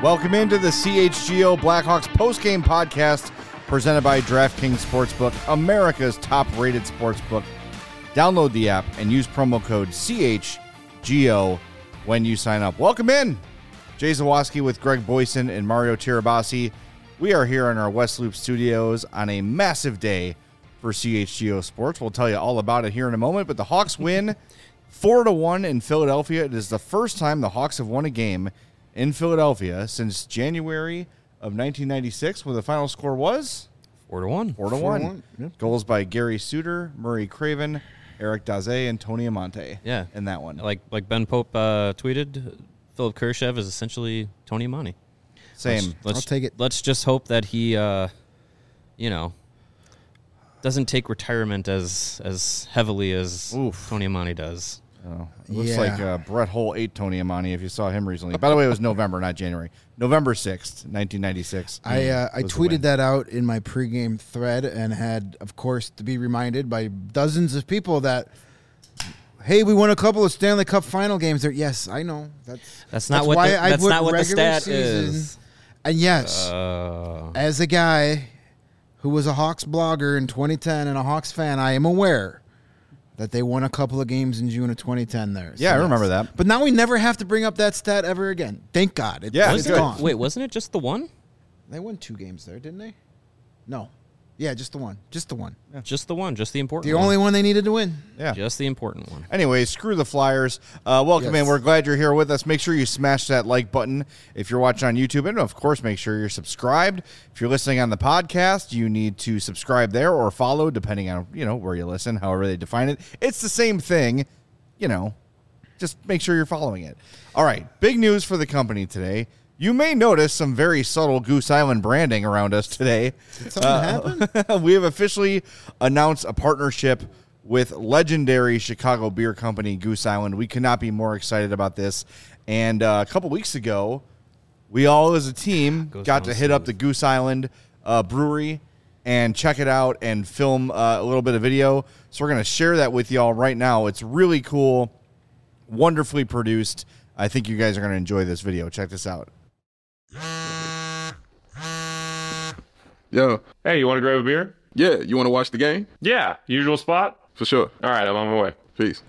Welcome into the CHGO Blackhawks postgame podcast presented by DraftKings Sportsbook, America's top-rated sportsbook. Download the app and use promo code CHGO when you sign up. Welcome in. Jay Zawoski with Greg Boyson and Mario Tirabassi. We are here in our West Loop studios on a massive day for CHGO Sports. We'll tell you all about it here in a moment, but the Hawks win 4-1 in Philadelphia. It is the first time the Hawks have won a game in Philadelphia since January of 1996, where the final score was 4-1. 4-1. Yep. Goals by Gary Suter, Murray Craven, Eric Daze, and Tony Amonte. Yeah, in that one. Like Ben Pope tweeted, Philip Kurashev is essentially Tony Amonte. Same. I'll take it. Let's just hope that he, doesn't take retirement as heavily as Tony Amonte does. Oh, it looks like Brett Hull ate Tony Amonte if you saw him recently. By the way, it was November, not January. November 6th, 1996. I tweeted that out in my pregame thread and had, of course, to be reminded by dozens of people that, hey, we won a couple of Stanley Cup final games there. Yes, I know. That's not what the stat is. And yes, as a guy who was a Hawks blogger in 2010 and a Hawks fan, I am aware that they won a couple of games in June of 2010 there. Yeah, I remember that. But now we never have to bring up that stat ever again. Thank God. It's gone. Wait, wasn't it just the one? They won 2 games there, didn't they? No. Yeah, just the one. Just the one. Yeah. Just the one. Just the important one. The only one they needed to win. Yeah. Just the important one. Anyway, screw the Flyers. Welcome in. We're glad you're here with us. Make sure you smash that like button if you're watching on YouTube. And, of course, make sure you're subscribed. If you're listening on the podcast, you need to subscribe there or follow, depending on, where you listen, however they define it. It's the same thing. Just make sure you're following it. All right, big news for the company today. You may notice some very subtle Goose Island branding around us today. Did something happen? We have officially announced a partnership with legendary Chicago beer company Goose Island. We could not be more excited about this. And a couple weeks ago, we all as a team got to hit up the Goose Island brewery and check it out and film a little bit of video. So we're going to share that with y'all right now. It's really cool, wonderfully produced. I think you guys are going to enjoy this video. Check this out. Yo. Hey, you want to grab a beer? Yeah, you want to watch the game? Yeah, usual spot? For sure. All right, I'm on my way. Peace.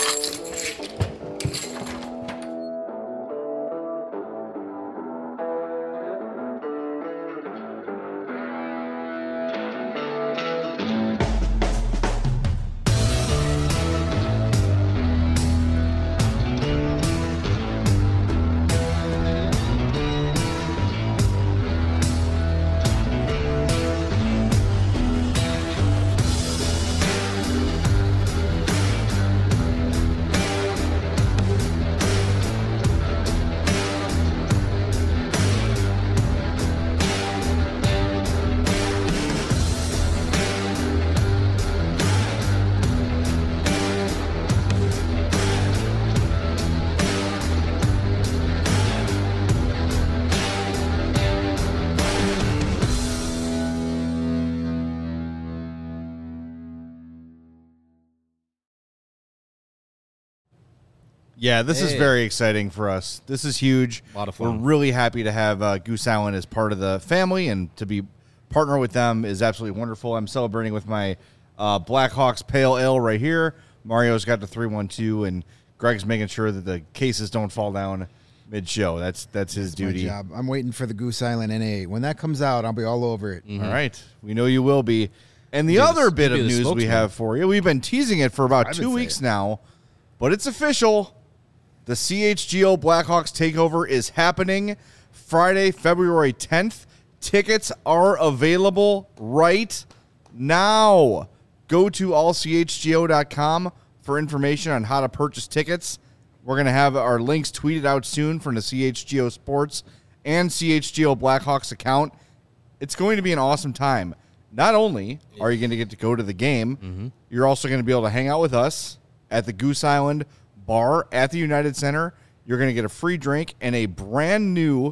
Yeah, this is very exciting for us. This is huge. A lot of fun. We're really happy to have Goose Island as part of the family, and to be partner with them is absolutely wonderful. I'm celebrating with my Blackhawks Pale Ale right here. Mario's got the 312, and Greg's making sure that the cases don't fall down mid-show. That's his duty. My job. I'm waiting for the Goose Island NA. When that comes out, I'll be all over it. Mm-hmm. All right. We know you will be. And the other bit of news we have for you, we've been teasing it for about 2 weeks now, but it's official. The CHGO Blackhawks takeover is happening Friday, February 10th. Tickets are available right now. Go to allchgo.com for information on how to purchase tickets. We're going to have our links tweeted out soon from the CHGO Sports and CHGO Blackhawks account. It's going to be an awesome time. Not only are you going to get to go to the game, you're also going to be able to hang out with us at the Goose Island bar at the United Center. You're going to get a free drink and a brand new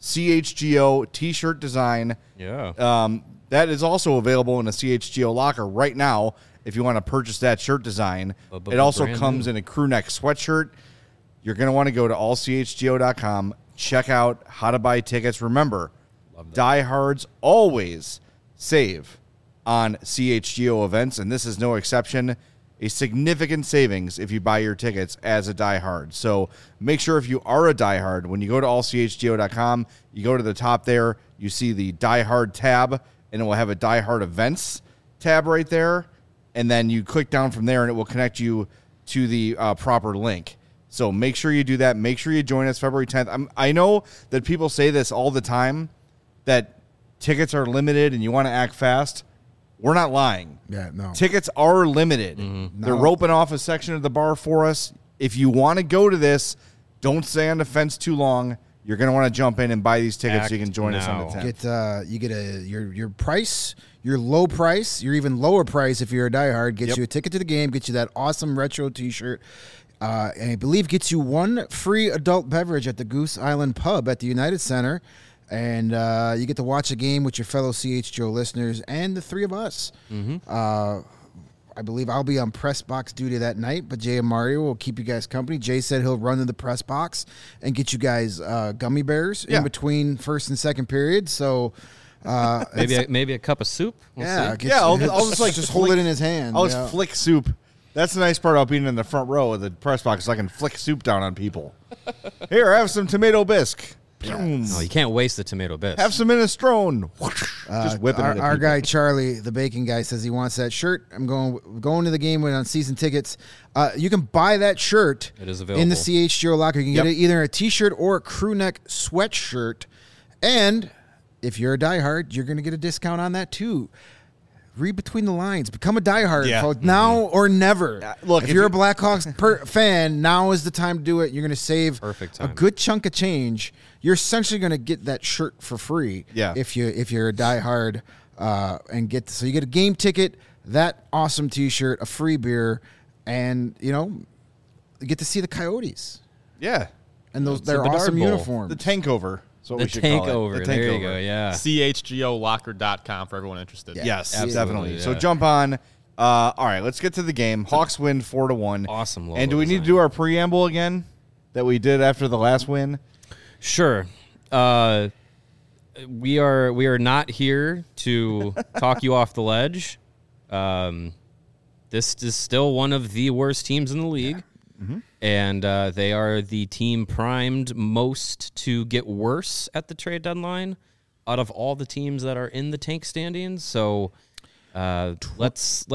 CHGO t-shirt design. Yeah. That is also available in a CHGO locker right now if you want to purchase that shirt design. It also comes in a crew neck sweatshirt. You're going to want to go to allchgo.com, check out how to buy tickets. Remember, diehards always save on CHGO events, and this is no exception. A significant savings if you buy your tickets as a diehard. So make sure if you are a diehard, when you go to allchgo.com, you go to the top there, you see the diehard tab, and it will have a diehard events tab right there. And then you click down from there, and it will connect you to the proper link. So make sure you do that. Make sure you join us February 10th. I know that people say this all the time, that tickets are limited and you want to act fast. We're not lying. Yeah, no. Tickets are limited. Mm-hmm. They're roping off a section of the bar for us. If you want to go to this, don't stay on the fence too long. You're going to want to jump in and buy these tickets so you can join us on the 10th. You get your price, your low price, your even lower price if you're a diehard, gets you a ticket to the game, gets you that awesome retro T-shirt, and I believe gets you one free adult beverage at the Goose Island Pub at the United Center. And you get to watch a game with your fellow CHGO listeners and the three of us. Mm-hmm. I believe I'll be on press box duty that night, but Jay and Mario will keep you guys company. Jay said he'll run to the press box and get you guys gummy bears in between first and second period. So maybe a cup of soup. We'll see. I'll just hold it in his hand. I'll just flick soup. That's the nice part about being in the front row of the press box, is I can flick soup down on people. Here, have some tomato bisque. No, you can't waste the tomato bisque. Have some minestrone. Just whipping it. Our guy Charlie, the bacon guy, says he wants that shirt. I'm going to the game on season tickets. You can buy that shirt. It is available in the CHGO locker. You can get it either a T-shirt or a crew neck sweatshirt. And if you're a diehard, you're going to get a discount on that too. Read between the lines. Become a diehard, folks. Now or never. Look, if you're a Blackhawks fan, now is the time to do it. You're going to save a good chunk of change. You're essentially going to get that shirt for free. If you're a diehard, and you get a game ticket, that awesome T-shirt, a free beer, and you get to see the Coyotes. Yeah, and their awesome uniforms. The tankover. The takeover. There you go. Yeah. CHGOlocker.com for everyone interested. Yes, definitely. Yeah. So jump on. All right, let's get to the game. Hawks win 4-1. Awesome logo And do we need to do our preamble again that we did after the last win? Sure. We are not here to talk you off the ledge. This is still one of the worst teams in the league. Yeah. Mm-hmm. And they are the team primed most to get worse at the trade deadline out of all the teams that are in the tank standings. So let's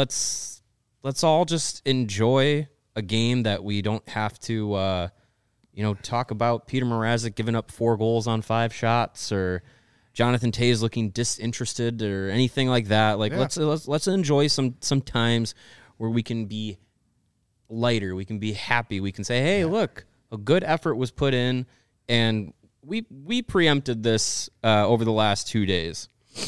all just enjoy a game that we don't have to talk about Peter Mrazek giving up 4 goals on 5 shots or Jonathan Toews looking disinterested or anything like that. Let's enjoy some times where we can be lighter, we can be happy, we can say, hey, look, a good effort was put in, and we preempted this over the last 2 days.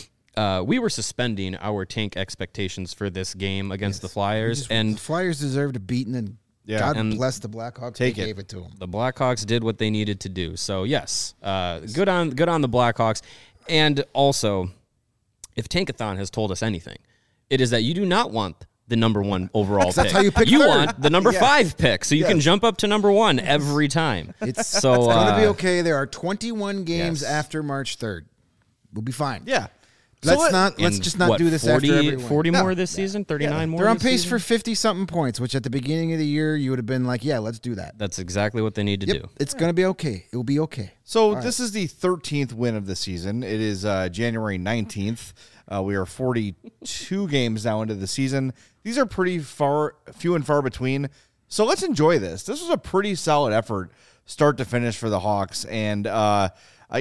We were suspending our tank expectations for this game against the Flyers, and the Flyers deserved a beating, and God bless the Blackhawks. They gave it to them. The Blackhawks did what they needed to do. So yes, good on the Blackhawks. And also, if Tankathon has told us anything, it is that you do not want the number 1 overall pick. That's how you pick. You want the number 5 pick, so you can jump up to number 1 every time. It's going to be okay. There are 21 games after March 3rd. We'll be fine. Yeah. Let's just not do this 40, after every win. 40 more this season, 39 more. They're on this pace season? for 50-something points, which at the beginning of the year you would have been like, yeah, let's do that. That's exactly what they need to do. It's going to be okay. It will be okay. So this is the 13th win of the season. It is January 19th. We are 42 games now into the season. These are pretty few and far between. So let's enjoy this. This was a pretty solid effort, start to finish for the Hawks, and not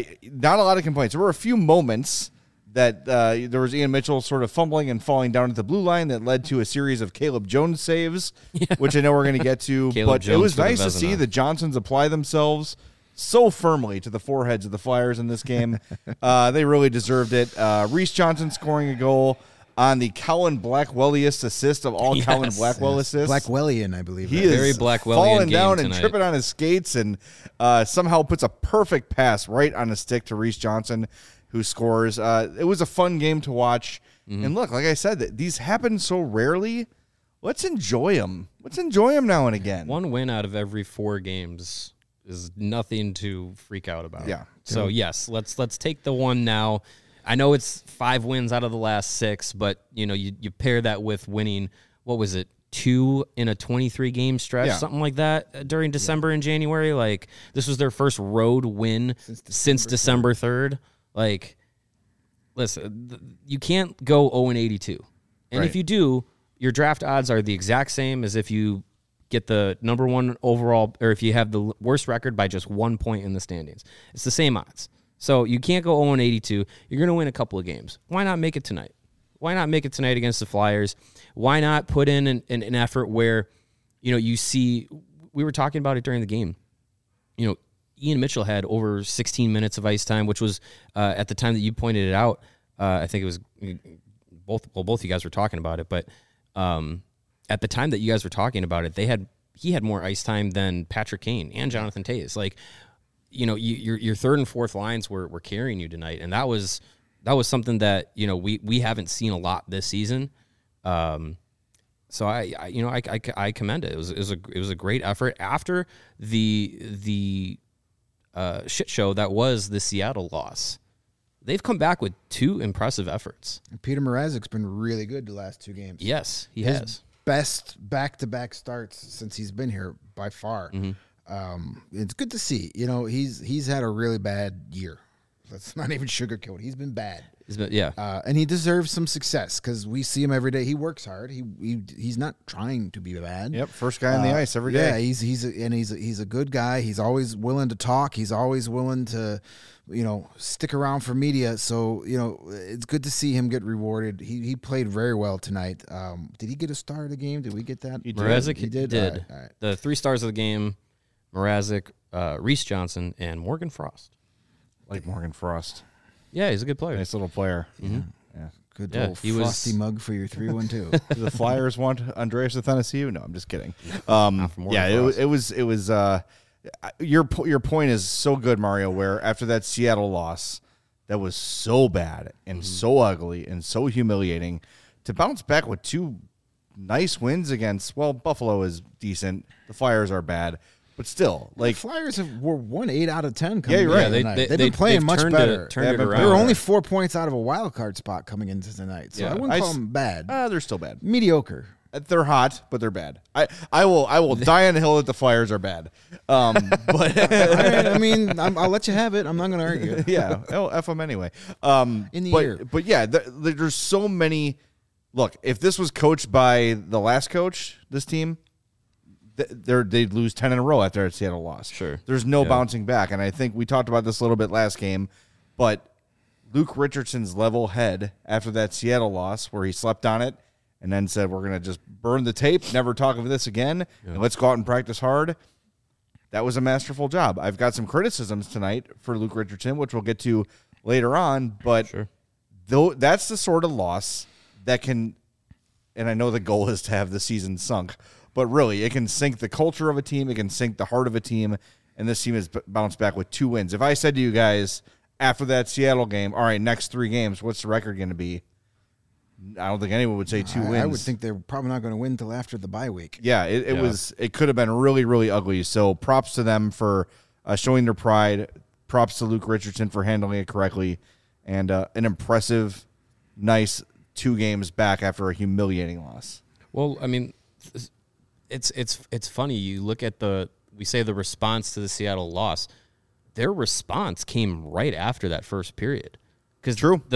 a lot of complaints. There were a few moments that there was Ian Mitchell sort of fumbling and falling down at the blue line that led to a series of Caleb Jones saves, which I know we're going to get to. But it was nice to see the Johnsons apply themselves so firmly to the foreheads of the Flyers in this game. They really deserved it. Reese Johnson scoring a goal on the Colin Blackwelliest assist of all Colin Blackwell assists. Blackwellian, I believe. He is very Blackwellian falling game down tonight. and tripping on his skates and somehow puts a perfect pass right on a stick to Reese Johnson, who scores. It was a fun game to watch. Mm-hmm. And look, like I said, these happen so rarely. Let's enjoy them. Let's enjoy them now and again. 1 win out of every 4 games is nothing to freak out about. Yeah. So yes, let's take the one now. I know it's 5 wins out of the last 6, but you pair that with winning. What was it? 2 in a 23 game stretch, something like that during December and January. Like this was their first road win since December 3rd. Like, listen, you can't go 0-82. And if you do, your draft odds are the exact same as if you get the number 1 overall, or if you have the worst record by just 1 point in the standings. It's the same odds. So you can't go 0-82. You're going to win a couple of games. Why not make it tonight? Why not make it tonight against the Flyers? Why not put in an effort where, you see, we were talking about it during the game. Ian Mitchell had over 16 minutes of ice time, which was at the time that you pointed it out. I think it was both of you guys were talking about it, but at the time that you guys were talking about it, he had more ice time than Patrick Kane and Jonathan Toews. Like, your third and fourth lines were carrying you tonight, and that was something that we haven't seen a lot this season. So I commend it. It was a great effort after the shit show that was the Seattle loss. They've come back with 2 impressive efforts. And Peter Mrazek's been really good the last 2 games. Yes, he has. Best back-to-back starts since he's been here by far. Mm-hmm. It's good to see. He's had a really bad year. Let's not even sugarcoat. He's been bad. And he deserves some success because we see him every day. He works hard. He's not trying to be bad. Yep, first guy on the ice every day. Yeah, he's a good guy. He's always willing to talk. He's always willing to, stick around for media. So it's good to see him get rewarded. He played very well tonight. Did he get a star of the game? Did we get that? Mrazek he did. All right. The 3 stars of the game: Mrazek, Reese Johnson, and Morgan Frost. Like Morgan Frost. Yeah, he's a good player. Nice little player. Mm-hmm. Yeah. Good little frosty mug for your 3-1-2. Do the Flyers want Andreas Athanasiou? No, I'm just kidding. It was. Your point is so good, Mario. Where after that Seattle loss, that was so bad and so ugly and so humiliating, to bounce back with 2 nice wins against. Well, Buffalo is decent. The Flyers are bad. But still, like the Flyers were won 8 out of 10. Yeah, you're right. They've been playing much better. Turned it around. They were only 4 points out of a wild card spot coming into tonight, so I wouldn't call them bad. They're still bad. Mediocre. They're hot, but they're bad. I will die on the hill that the Flyers are bad. But I mean, I'll let you have it. I'm not going to argue. Yeah, F them anyway. In the year, but yeah, there's so many. Look, if this was coached by the last coach, this team, they'd lose 10 in a row after a Seattle loss. Sure. There's no bouncing back. And I think we talked about this a little bit last game, but Luke Richardson's level head after that Seattle loss where he slept on it and then said, we're going to just burn the tape, never talk of this again, and let's go out and practice hard. That was a masterful job. I've got some criticisms tonight for Luke Richardson, which we'll get to later on, but though that's the sort of loss that can, and I know the goal is to have the season sunk, but really, it can sink the culture of a team. It can sink the heart of a team. And this team has bounced back with 2 wins. If I said to you guys after that Seattle game, all right, next 3 games, what's the record going to be? I don't think anyone would say 2 wins. I would think they're probably not going to win until after the bye week. Yeah, it could have been really, really ugly. So props to them for showing their pride. Props to Luke Richardson for handling it correctly. And an impressive, nice 2 games back after a humiliating loss. Well, I mean, It's funny. You look at the response to the Seattle loss. Their response came right after that first period. Because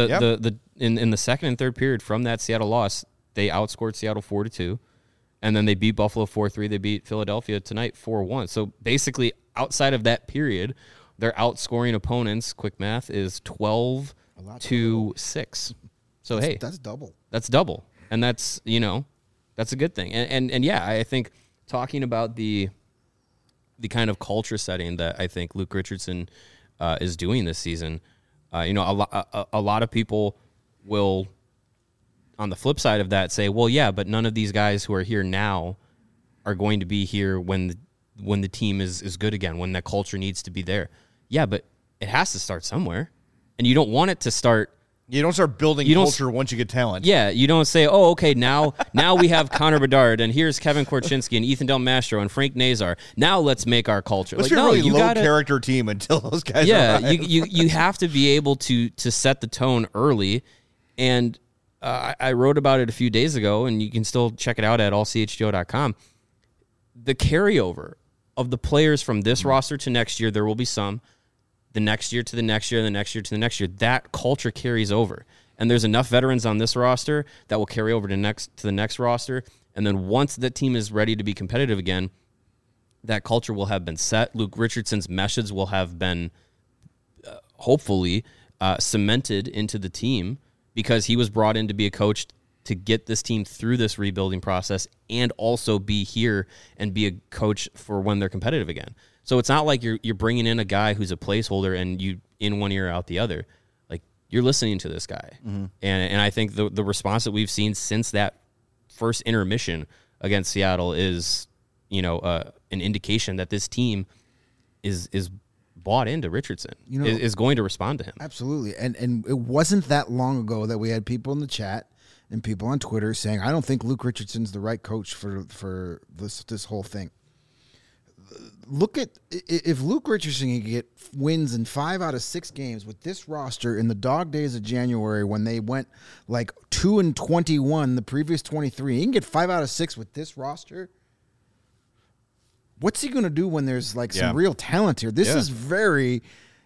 in the second and third period from that Seattle loss, they outscored Seattle 4-2, and then they beat Buffalo 4-3. They beat Philadelphia tonight 4-1. So basically, outside of that period, they're outscoring opponents. Quick math is 12-6. So that's double. That's double, and that's that's a good thing. And yeah, I think talking about the kind of culture setting that I think Luke Richardson is doing this season, a lot of people will, on the flip side of that, say, well, yeah, but none of these guys who are here now are going to be here when the team is good again, when that culture needs to be there. Yeah, but it has to start somewhere. And you don't want it to start You don't start building culture once you get talent. Yeah, you don't say, "Oh, okay, now we have Connor Bedard, and here's Kevin Korchinski and Ethan Del Mastro and Frank Nazar. Now let's make our culture." Let's be a really low-character team until those guys arrive. you have to be able to set the tone early. And I wrote about it a few days ago, and you can still check it out at allchgo.com. The carryover of the players from this roster to next year, there will be some. The next year to the next year, the next year to the next year, that culture carries over. And there's enough veterans on this roster that will carry over to the next roster. And then once that team is ready to be competitive again, that culture will have been set. Luke Richardson's message will have been hopefully cemented into the team, because he was brought in to be a coach to get this team through this rebuilding process and also be here and be a coach for when they're competitive again. So it's not like you're bringing in a guy who's a placeholder and you in one ear out the other. Like, you're listening to this guy. Mm-hmm. And I think the response that we've seen since that first intermission against Seattle is, an indication that this team is bought into Richardson, is going to respond to him. Absolutely. And it wasn't that long ago that we had people in the chat and people on Twitter saying, I don't think Luke Richardson's the right coach for this whole thing. Look at, if Luke Richardson can get wins in 5 out of 6 games with this roster in the dog days of January, when they went like 2-21 the previous 23, he can get 5 out of 6 with this roster. What's he going to do when there's like some real talent here? This is very,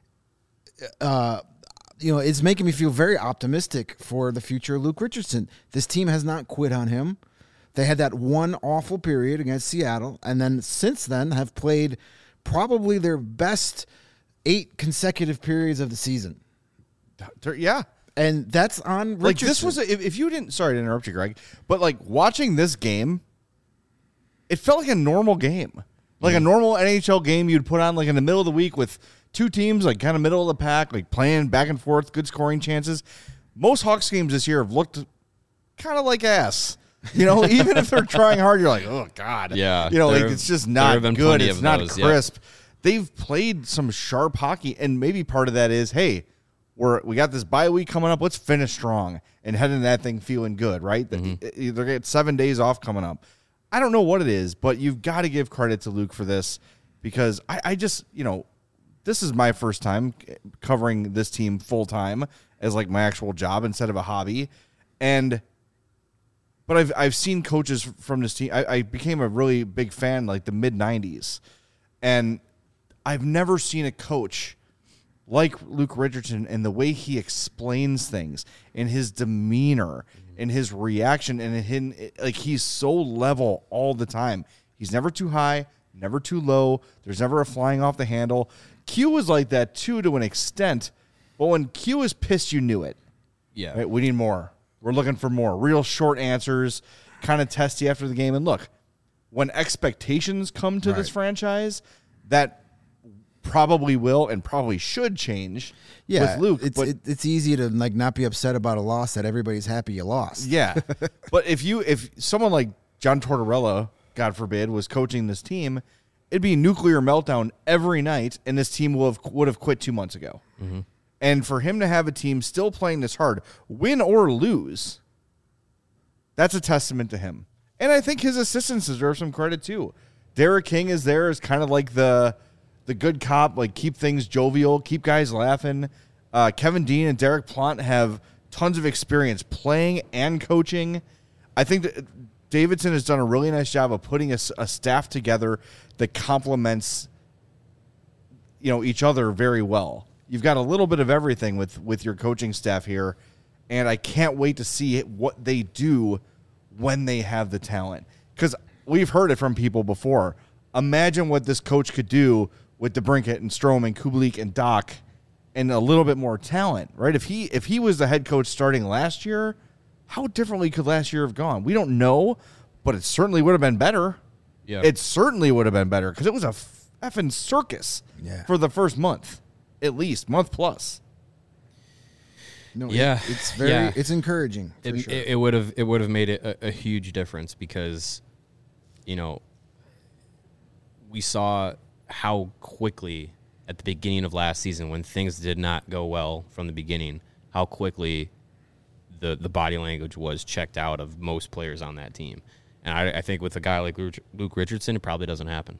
it's making me feel very optimistic for the future of Luke Richardson. This team has not quit on him. They had that one awful period against Seattle, and then since then have played probably their best 8 consecutive periods of the season. Yeah. And that's on Richardson. Like, this was, if you didn't, sorry to interrupt you, Greg, but like watching this game, it felt like a normal game. Like a normal NHL game you'd put on like in the middle of the week with 2 teams, like kind of middle of the pack, like playing back and forth, good scoring chances. Most Hawks games this year have looked kind of like ass. Even if they're trying hard, you're like, oh, God. Yeah. It's just not good. It's not crisp. Yeah. They've played some sharp hockey, and maybe part of that is, hey, we got this bye week coming up. Let's finish strong and head into that thing feeling good, right? Mm-hmm. They're getting 7 days off coming up. I don't know what it is, but you've got to give credit to Luke for this, because I just, this is my first time covering this team full time as like my actual job instead of a hobby. But I've seen coaches from this team. I became a really big fan like the mid-90s, and I've never seen a coach like Luke Richardson and the way he explains things and his demeanor and his reaction, and like he's so level all the time. He's never too high, never too low. There's never a flying off the handle. Q was like that too to an extent, but when Q is pissed, you knew it. Yeah, right? We need more. We're looking for more real short answers, kind of testy after the game. And look, when expectations come to this franchise, that probably will and probably should change with Luke. It's easy to like not be upset about a loss that everybody's happy you lost. Yeah. But if someone like John Tortorella, God forbid, was coaching this team, it'd be a nuclear meltdown every night, and this team would have quit 2 months ago. Mm-hmm. And for him to have a team still playing this hard, win or lose, that's a testament to him. And I think his assistants deserve some credit too. Derek King is there as kind of like the good cop, like keep things jovial, keep guys laughing. Kevin Dean and Derek Plant have tons of experience playing and coaching. I think that Davidson has done a really nice job of putting a staff together that complements each other very well. You've got a little bit of everything with your coaching staff here, and I can't wait to see what they do when they have the talent. Because we've heard it from people before. Imagine what this coach could do with DeBrincat and Strome and Kubalik and Doc and a little bit more talent, right? If he was the head coach starting last year, how differently could last year have gone? We don't know, but it certainly would have been better. Yeah, it certainly would have been better because it was a effing circus for the first month. At least month plus. No, it's encouraging. It would have made it a huge difference because, we saw how quickly at the beginning of last season when things did not go well from the beginning, how quickly the body language was checked out of most players on that team. And I think with a guy like Luke Richardson, it probably doesn't happen.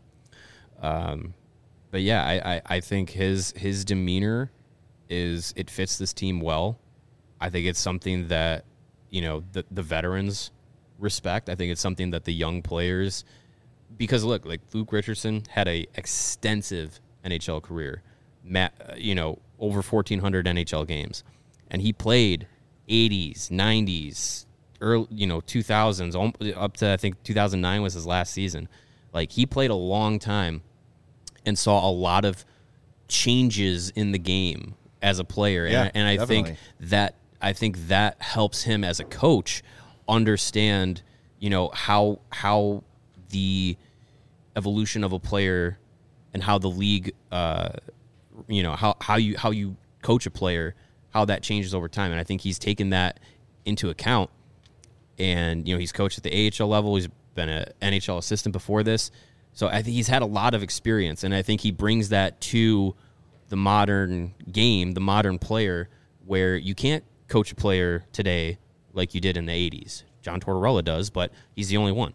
But yeah, I think his demeanor it fits this team well. I think it's something that, the veterans respect. I think it's something that the young players, because look, like Luke Richardson had a extensive NHL career, over 1,400 NHL games, and he played 80s, 90s, early, 2000s, up to I think 2009 was his last season. Like, he played a long time and saw a lot of changes in the game as a player, and I think that helps him as a coach understand, how the evolution of a player and how the league, how you coach a player, how that changes over time. And I think he's taken that into account. And, he's coached at the AHL level. He's been an NHL assistant before this. So I think he's had a lot of experience. And I think he brings that to the modern game, the modern player, where you can't coach a player today like you did in the 80s. John Tortorella does, but he's the only one.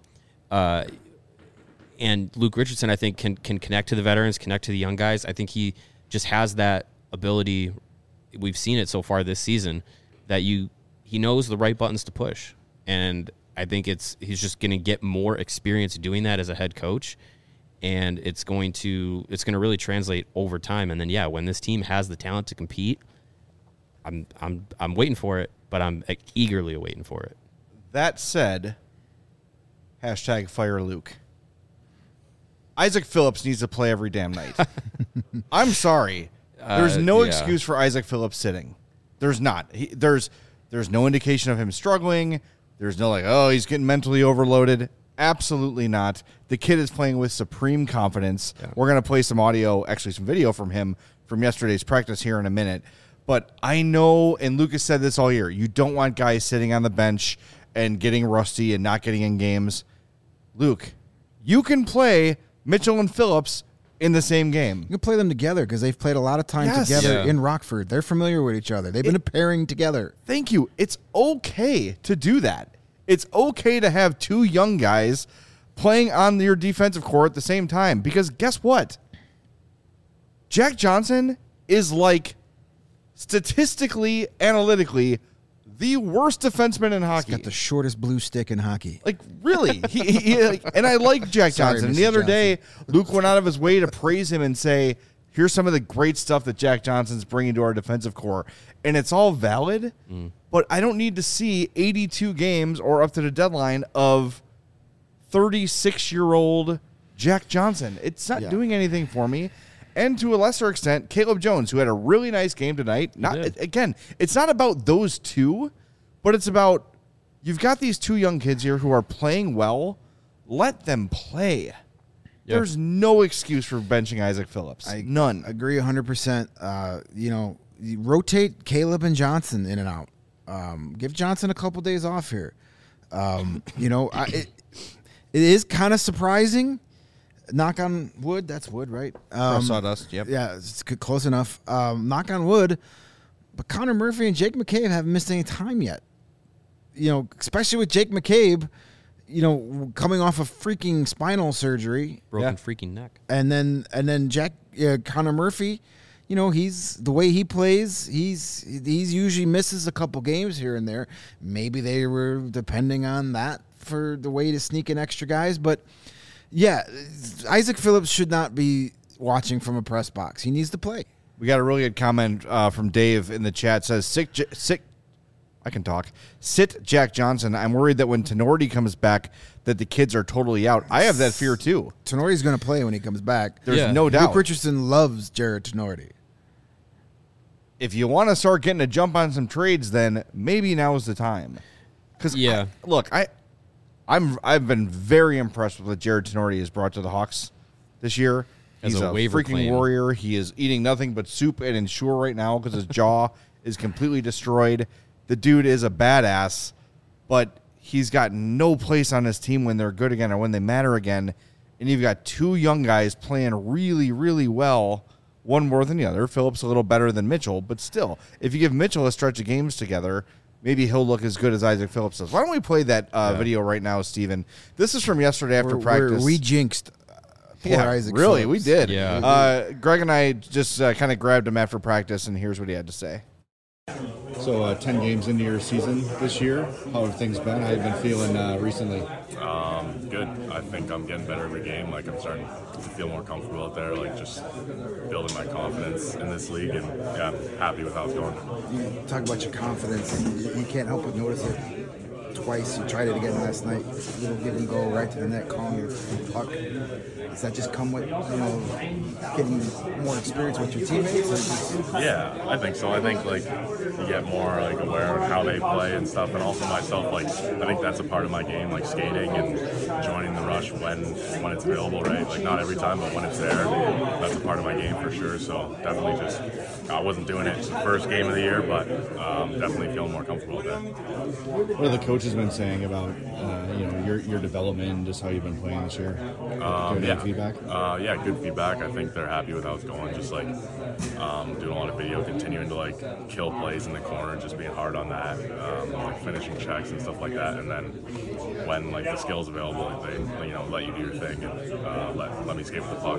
And Luke Richardson, I think, can connect to the veterans, connect to the young guys. I think he just has that ability. We've seen it so far this season that he knows the right buttons to push. And I think he's just going to get more experience doing that as a head coach. And it's going to really translate over time. And then, when this team has the talent to compete, I'm waiting for it, but I'm eagerly waiting for it. That said, #fire Luke. Isaac Phillips needs to play every damn night. I'm sorry. There's no excuse for Isaac Phillips sitting. There's not. There's no indication of him struggling. There's no he's getting mentally overloaded. Absolutely not. The kid is playing with supreme confidence. Yeah. We're going to play some audio, actually some video from him from yesterday's practice here in a minute. But I know, and Lucas said this all year, you don't want guys sitting on the bench and getting rusty and not getting in games. Luke, you can play Mitchell and Phillips in the same game. You can play them together because they've played a lot of time together in Rockford. They're familiar with each other. They've been pairing together. Thank you. It's okay to do that. It's okay to have two young guys playing on your defensive core at the same time because guess what? Jack Johnson is statistically, analytically, the worst defenseman in hockey. He's got the shortest blue stick in hockey. Really. And I like Jack Johnson. And the other day, Luke went out of his way to praise him and say, here's some of the great stuff that Jack Johnson's bringing to our defensive core. And it's all valid, but I don't need to see 82 games or up to the deadline of 36-year-old Jack Johnson. It's not doing anything for me. And to a lesser extent, Caleb Jones, who had a really nice game tonight. Again, it's not about those two, but it's about you've got these two young kids here who are playing well. Let them play. Yep. There's no excuse for benching Isaac Phillips. None. Agree 100%. You rotate Caleb and Johnson in and out. Give Johnson a couple days off here. It is kind of surprising. Knock on wood. That's wood, right? Sawdust, yep. Yeah, it's close enough. Knock on wood. But Connor Murphy and Jake McCabe haven't missed any time yet. Especially with Jake McCabe, coming off of freaking spinal surgery. Broken freaking neck. And then Connor Murphy, he's the way he plays, he's usually misses a couple games here and there. Maybe they were depending on that for the way to sneak in extra guys, but yeah, Isaac Phillips should not be watching from a press box. He needs to play. We got a really good comment from Dave in the chat. Says, I can talk. Sit Jack Johnson. I'm worried that when Tenorti comes back that the kids are totally out. I have that fear too. Tenorti's going to play when he comes back. There's no doubt. Luke Richardson loves Jared Tenorti. If you want to start getting a jump on some trades, then maybe now is the time. Because I've been very impressed with what Jared Tenorti has brought to the Hawks this year. He's a freaking warrior. He is eating nothing but soup and Ensure right now because his jaw is completely destroyed. The dude is a badass, but he's got no place on his team when they're good again or when they matter again. And you've got two young guys playing really, really well one more than the other. Phillips a little better than Mitchell, but still, if you give Mitchell a stretch of games together, maybe he'll look as good as Isaac Phillips does. Why don't we play that video right now, Steven? This is from yesterday after practice. We jinxed poor Isaac really, Phillips. we did. Yeah. Greg and I just kind of grabbed him after practice, and here's what he had to say. So 10 games into your season this year, how have things been? How have you been feeling recently? Good. I think I'm getting better every game. Like, I'm starting to feel more comfortable out there, like just building my confidence in this league, and yeah, I'm happy with how it's going. You talk about your confidence. You can't help but notice it. Twice, you tried it again last night. Little give and go right to the net, calling your puck. Does that just come with, getting more experience with your teammates? Yeah, I think so. I think like you get more like aware of how they play and stuff, and also myself. Like, I think that's a part of my game, like skating and joining the rush when it's available, right? Like, not every time, but when it's there, that's a part of my game for sure. So definitely just I wasn't doing it the first game of the year, but definitely feeling more comfortable with that. What have the coaches been saying about your development and just how you've been playing this year? Yeah. Feedback? Yeah, good feedback. I think they're happy with how it's going. Just like doing a lot of video, continuing to like kill plays in the corner, just being hard on that, like finishing checks and stuff like that. And then when like the skills available, they let you do your thing and let me skate with the puck.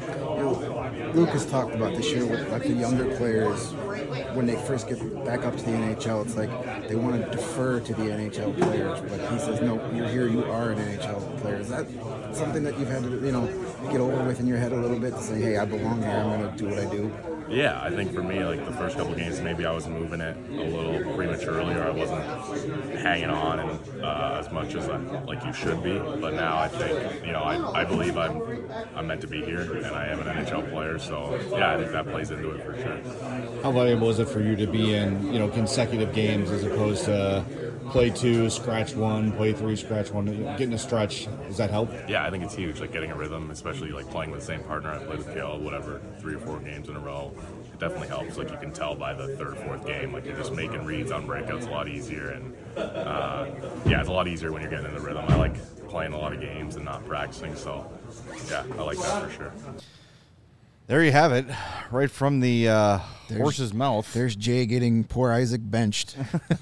Lucas talked about this year with like the younger players when they first get back up to the NHL. It's like they want to defer to the NHL players, but he says, no, you're here, you are an NHL player. Is that something that you've had to get over with in your head a little bit to say, hey, I belong here, I'm going to do what I do? Yeah, I think for me, like the first couple games, maybe I was moving it a little prematurely, or I wasn't hanging on and as much as like you should be. But now I think, I believe I'm meant to be here, and I am an NHL player. So yeah, I think that plays into it for sure. How valuable is it for you to be in consecutive games as opposed to play 2, scratch 1, play 3, scratch 1, getting a stretch? Does that help? Yeah, I think it's huge, like getting a rhythm, especially like playing with the same partner. I played with Caleb, 3 or 4 games in a row. It definitely helps. Like you can tell by the 3rd or 4th game, like you're just making reads on breakouts a lot easier. And it's a lot easier when you're getting in the rhythm. I like playing a lot of games and not practicing. So yeah, I like that for sure. There you have it, right from the horse's mouth. There's Jay getting poor Isaac benched.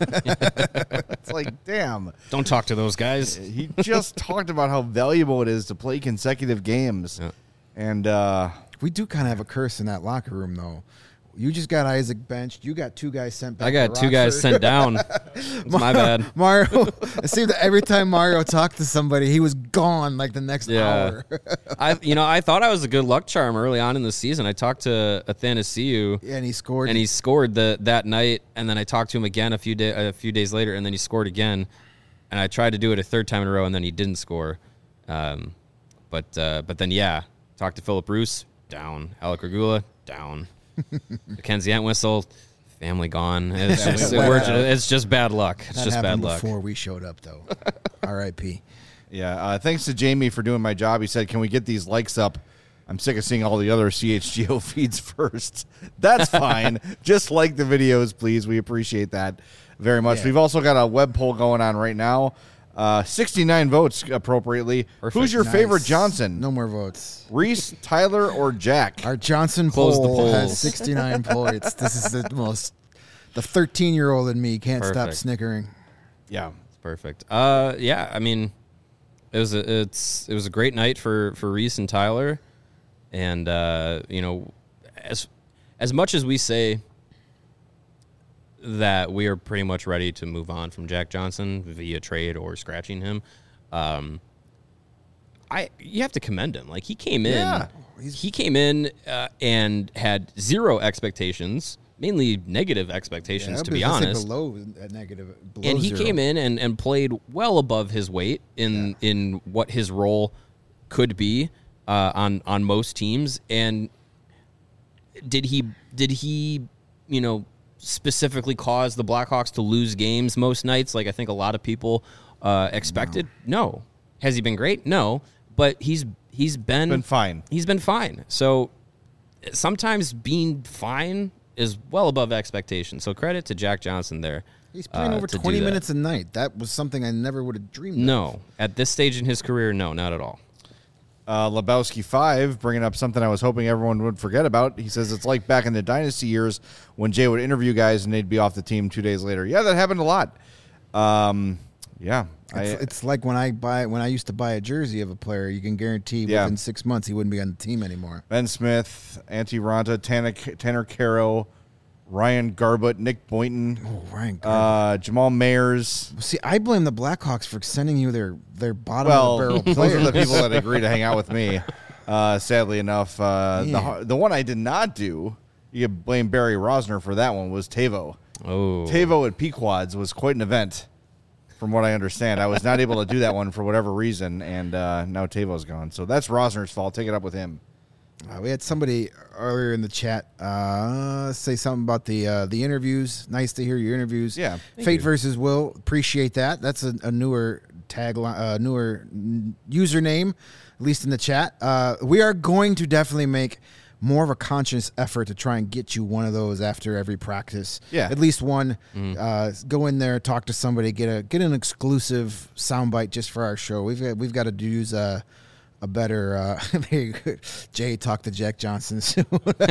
It's like, damn. Don't talk to those guys. He just talked about how valuable it is to play consecutive games. Yeah. And we do kind of have a curse in that locker room, though. You just got Isaac benched. You got 2 guys sent back. I got 2 guys sent down. It's my bad. Mario, it seemed that every time Mario talked to somebody, he was gone like the next hour. I thought I was a good luck charm early on in the season. I talked to Athanasiou. Yeah, and he scored. And he scored that night. And then I talked to him again a few days later, and then he scored again. And I tried to do it a 3rd time in a row, and then he didn't score. But then, talked to Philip Roos, down. Alec Regula, down. Mackenzie Entwistle, family gone. It's just bad luck. It's just bad luck. Before we showed up, though. R.I.P. Yeah. Thanks to Jamie for doing my job. He said, "Can we get these likes up? I'm sick of seeing all the other CHGO feeds first." That's fine. Just like the videos, please. We appreciate that very much. Yeah. We've also got a web poll going on right now. 69 votes appropriately. Perfect. Who's your favorite Johnson? No more votes. Reese, Tyler, or Jack? Our Johnson poll has 69 points. This is the 13-year-old in me can't stop snickering. Yeah, it's perfect. I mean, it was a great night for Reese and Tyler, and as much as we say that we are pretty much ready to move on from Jack Johnson via trade or scratching him. You have to commend him. Like he came in and had 0 expectations, mainly negative expectations, to be honest. Below and he 0. came in and played well above his weight in what his role could be on most teams. And did he specifically cause the Blackhawks to lose games most nights, like I think a lot of people expected? No. Has he been great? No. But he's been fine. He's been fine. So sometimes being fine is well above expectations. So credit to Jack Johnson there. He's playing over 20 minutes a night. That was something I never would have dreamed of. No. At this stage in his career, no, not at all. Lebowski 5, bringing up something I was hoping everyone would forget about. He says it's like back in the Dynasty years when Jay would interview guys and they'd be off the team 2 days later. Yeah, that happened a lot. Yeah. It's like when I used to buy a jersey of a player, you can guarantee within 6 months he wouldn't be on the team anymore. Ben Smith, Antti Ranta, Tanner Caro, Ryan Garbutt, Nick Boynton, Ryan Garbutt. Jamal Mayers. See, I blame the Blackhawks for sending you their bottom of the barrel players. Those are the people that agree to hang out with me. Sadly enough, the one I did not do, you could blame Barry Rosner for that one, was Tavo. Oh, Tavo at Pequods was quite an event, from what I understand. I was not able to do that one for whatever reason, and now Tavo's gone. So that's Rosner's fault. Take it up with him. We had somebody earlier in the chat say something about the interviews. Nice to hear your interviews. Yeah, Fate versus Will. Appreciate that. That's a newer tagline, newer username, at least in the chat. We are going to definitely make more of a conscious effort to try and get you one of those after every practice. Yeah, at least one. Go in there, talk to somebody, get an exclusive soundbite just for our show. We've got to use a better Jay talk to Jack Johnson soon.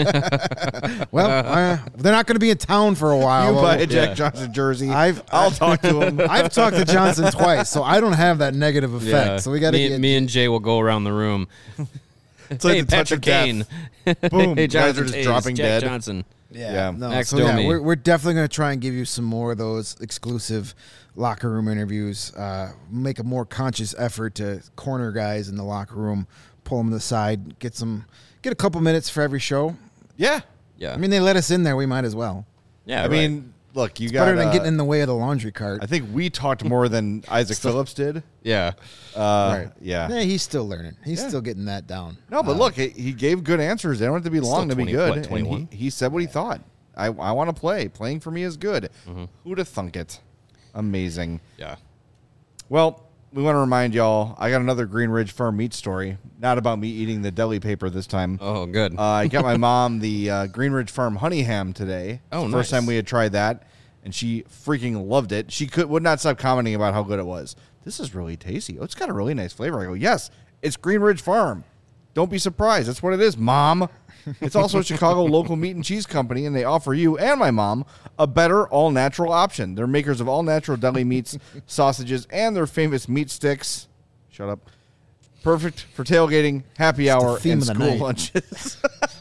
Well, they're not going to be in town for a while. You buy a Jack Johnson jersey. I'll talk to him. I've talked to Johnson twice, so I don't have that negative effect. Yeah. So we got to me and Jay will go around the room. It's like hey, the touch of Patrick death. Boom. Hey, guys are Johnson, just dropping Jack dead. Johnson. Yeah. No, Next so we're definitely going to try and give you some more of those exclusive locker room interviews. Make a more conscious effort to corner guys in the locker room, pull them to the side, get a couple minutes for every show. Yeah. Yeah. I mean, they let us in there. We might as well. Yeah. I mean, look, you got better than getting in the way of the laundry cart. I think we talked more than Isaac Phillips did. Yeah. Right. Yeah. He's still learning. He's still getting that down. No, but look, he gave good answers. They don't have to be long to be 20, good. what, 21? And he said what he thought. I want to play. Playing for me is good. Who'd have thunk it? Amazing. Yeah. Well, we want to remind y'all, I got another Green Ridge Farm meat story. Not about me eating the deli paper this time. Oh, good. I got my mom the Green Ridge Farm honey ham today. Oh, It's the nice. First time we had tried that, and she freaking loved it. She would not stop commenting about how good it was. This is really tasty. Oh, it's got a really nice flavor. I go, yes, it's Green Ridge Farm. Don't be surprised. That's what it is, Mom. It's also a Chicago local meat and cheese company, and they offer you and my mom a better all-natural option. They're makers of all-natural deli meats, sausages, and their famous meat sticks. Shut up. Perfect for tailgating, happy hour, and school lunches.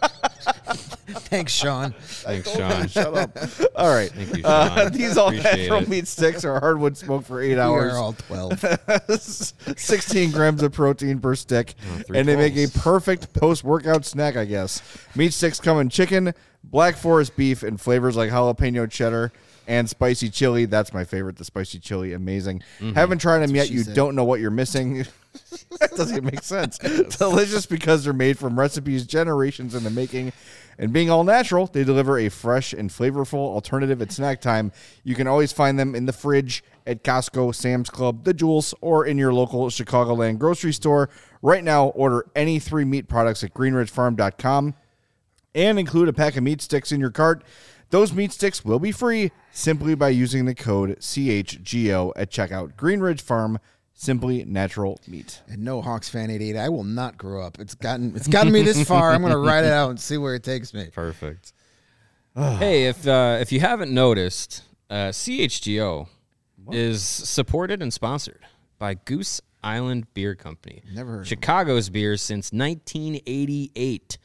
Thanks, Sean. Thanks, Sean. Shut up. All right. Thank you, Sean. These Appreciate all-natural it. meat sticks are hardwood smoked for 8 We hours. are all 12. 16 grams of protein per stick, three and they make a 12s. perfect post-workout snack, I guess. Meat sticks come in chicken, Black Forest beef, and flavors like jalapeno cheddar and spicy chili. That's my favorite, the spicy chili. Amazing. Haven't tried them yet. she You said. don't know what you're missing. That doesn't make sense. Delicious because they're made from recipes generations in the making. And being all natural, they deliver a fresh and flavorful alternative at snack time. You can always find them in the fridge at Costco, Sam's Club, The Jewels, or in your local Chicagoland grocery store. Right now, order any 3 meat products at greenridgefarm.com and include a pack of meat sticks in your cart. Those meat sticks will be free simply by using the code CHGO at checkout. Green Ridge Farm, simply natural meat. And no Hawks fan 88. I will not grow up. It's gotten me this far. I'm going to ride it out and see where it takes me. Perfect. Hey, if you haven't noticed, CHGO is supported and sponsored by Goose Island Beer Company. Never heard of Chicago's beers since 1988.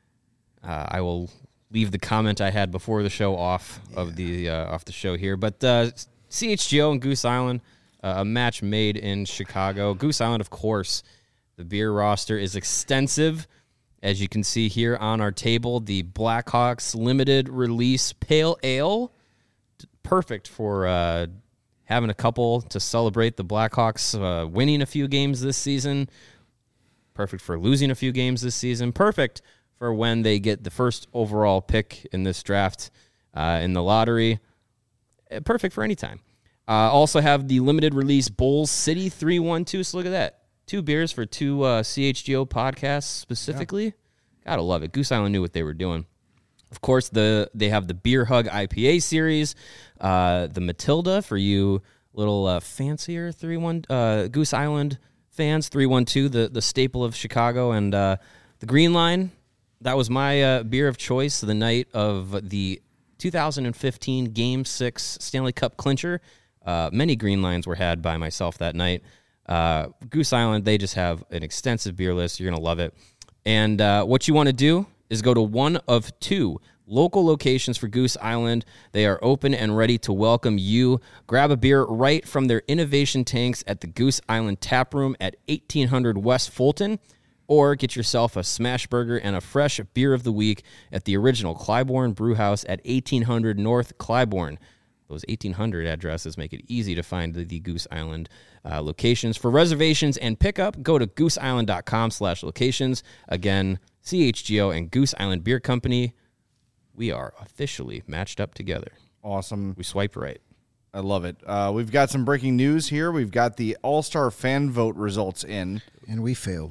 I will leave the comment I had before the show off the show here, but CHGO and Goose Island, a match made in Chicago. Goose Island, of course, the beer roster is extensive. As you can see here on our table, the Blackhawks limited release pale ale, perfect for having a couple to celebrate the Blackhawks winning a few games this season. Perfect for losing a few games this season. Perfect for when they get the first overall pick in this draft in the lottery. Perfect for any time. Also have the limited release Bulls City 312. So look at that. 2 beers for 2 CHGO podcasts specifically. Yeah. Gotta love it. Goose Island knew what they were doing. Of course, they have the Beer Hug IPA series, the Matilda for you little fancier Goose Island fans, 312, the staple of Chicago. And the Green Line, that was my beer of choice the night of the 2015 Game 6 Stanley Cup clincher. Many Green Lines were had by myself that night. Goose Island, they just have an extensive beer list. You're going to love it. And what you want to do is go to one of 2 local locations for Goose Island. They are open and ready to welcome you. Grab a beer right from their innovation tanks at the Goose Island Tap Room at 1800 West Fulton, or get yourself a smash burger and a fresh beer of the week at the original Clybourne Brewhouse at 1800 North Clybourne. Those 1800 addresses make it easy to find the Goose Island locations. For reservations and pickup, go to gooseisland.com/locations. Again, CHGO and Goose Island Beer Company, we are officially matched up together. Awesome. We swipe right. I love it. We've got some breaking news here. We've got the All-Star fan vote results in. And we failed.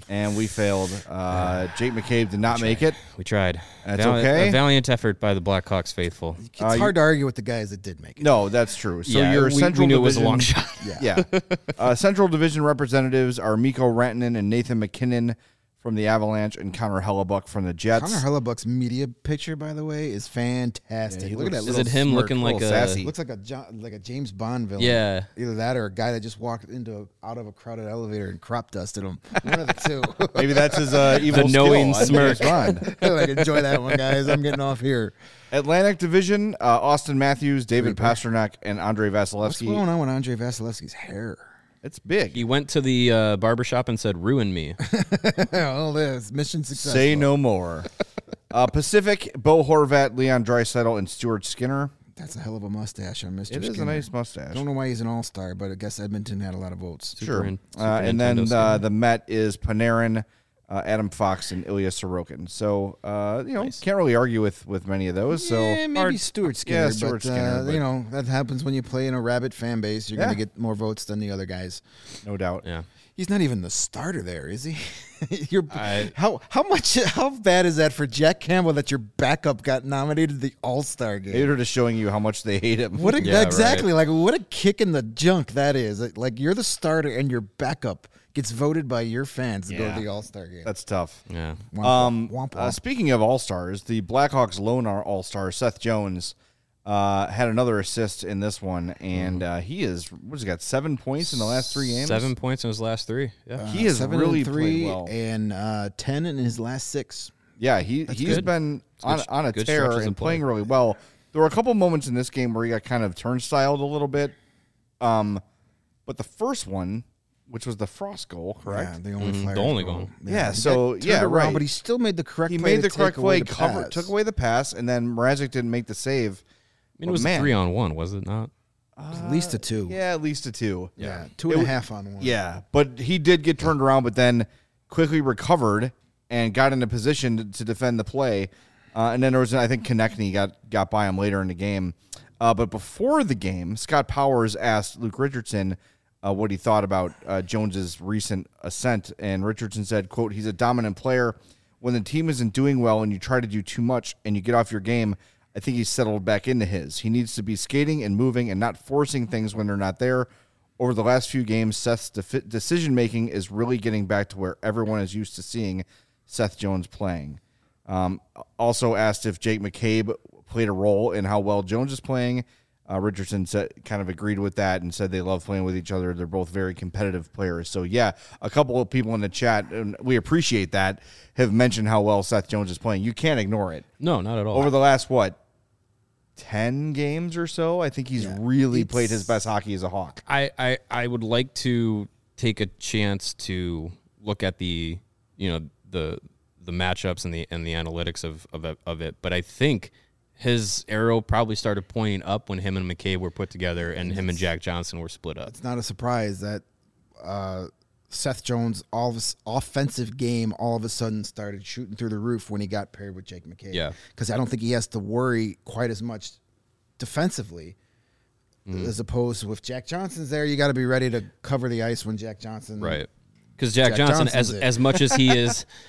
Jake McCabe did not make it. We tried. That's okay. A valiant effort by the Blackhawks faithful. It's hard to argue with the guys that did make it. No, that's true. So yeah, your Central we knew Division, it was a long shot. Yeah. Central Division representatives are Mikko Rantanen and Nathan McKinnon from the Avalanche and Connor Hellebuck from the Jets. Connor Hellebuck's media picture, by the way, is fantastic. Yeah, Look at that. Is it him smirk, looking like a sassy. Looks like a James Bond villain. Yeah. Either that or a guy that just walked out of a crowded elevator and crop dusted him. One of the two. Maybe that's his evil The knowing skill. smirk. Like, enjoy that one, guys. I'm getting off here. Atlantic Division, Austin Matthews, David Great. Pasternak, and Andrei What's Vasilevsky. going on with Andrei Vasilevsky's hair? It's big. He went to the barbershop and said, "Ruin me." All this mission successful. Say no more. Pacific, Bo Horvat, Leon Draisaitl, and Stuart Skinner. That's a hell of a mustache on Mr. It is a Skinner. nice mustache. Don't know why he's an all-star, but I guess Edmonton had a lot of votes. Sure. Super And then Nintendo Skinner. the Met is Panarin, Adam Fox, and Ilya Sorokin. So, can't really argue with many of those. So Yeah, maybe Stuart Skinner. Yeah, Stuart Skinner, but- that happens when you play in a rabid fan base. You're going to get more votes than the other guys. no doubt. Yeah. He's not even the starter there, is he? How bad is that for Jack Campbell that your backup got nominated to the All-Star game? They're just showing you how much they hate him. What Yeah, exactly? Like, what a kick in the junk that is. Like, you're the starter and your backup gets voted by your fans to go to the All-Star game. That's tough. Yeah. Womp, womp, womp. Speaking of All-Stars, the Blackhawks lone All-Star, Seth Jones, had another assist in this one, and he got 7 points in the last 3 games? 7 points in his last 3. Yeah. He has 7 really and 3 played well. and 10 in his last 6. Yeah, he's good. been on a good tear stretches and of play. playing really well. There were a couple moments in this game where he got kind of turnstiled a little bit. But the first one, which was the Frost goal, correct? Yeah, the only Flyers the only goal. goal. Yeah, he so, got turned yeah, around, right. But he still made the correct He play. made the to correct take away play, the pass. took away the pass, and then Mrazek didn't make the save. I mean, it was a 3-on-1, was it not? At least a 2. Yeah, at least a 2. Yeah, 2.5 on 1. Yeah, but he did get turned around, but then quickly recovered and got into position to defend the play. And then there was, I think, Konechny got by him later in the game. But before the game, Scott Powers asked Luke Richardson what he thought about Jones's recent ascent, and Richardson said, quote, "He's a dominant player. When the team isn't doing well and you try to do too much and you get off your game, I think he's settled back into his. He needs to be skating and moving and not forcing things when they're not there. Over the last few games, Seth's decision-making is really getting back to where everyone is used to seeing Seth Jones playing." Also asked if Jake McCabe played a role in how well Jones is playing. Richardson kind of agreed with that and said they love playing with each other. They're both very competitive players. So, yeah, a couple of people in the chat, and we appreciate that, have mentioned how well Seth Jones is playing. You can't ignore it. No, not at all. Over the last, 10 games or so, I think he's really played his best hockey as a Hawk. I would like to take a chance to look at the matchups and the analytics of it, but I think his arrow probably started pointing up when him and McCabe were put together and him and Jack Johnson were split up. It's not a surprise that Seth Jones' offensive game all of a sudden started shooting through the roof when he got paired with Jake McCabe. Yeah. Because I don't think he has to worry quite as much defensively as opposed to if Jack Johnson's there, you got to be ready to cover the ice when Jack Johnson. Right. Because Jack Johnson, as much as he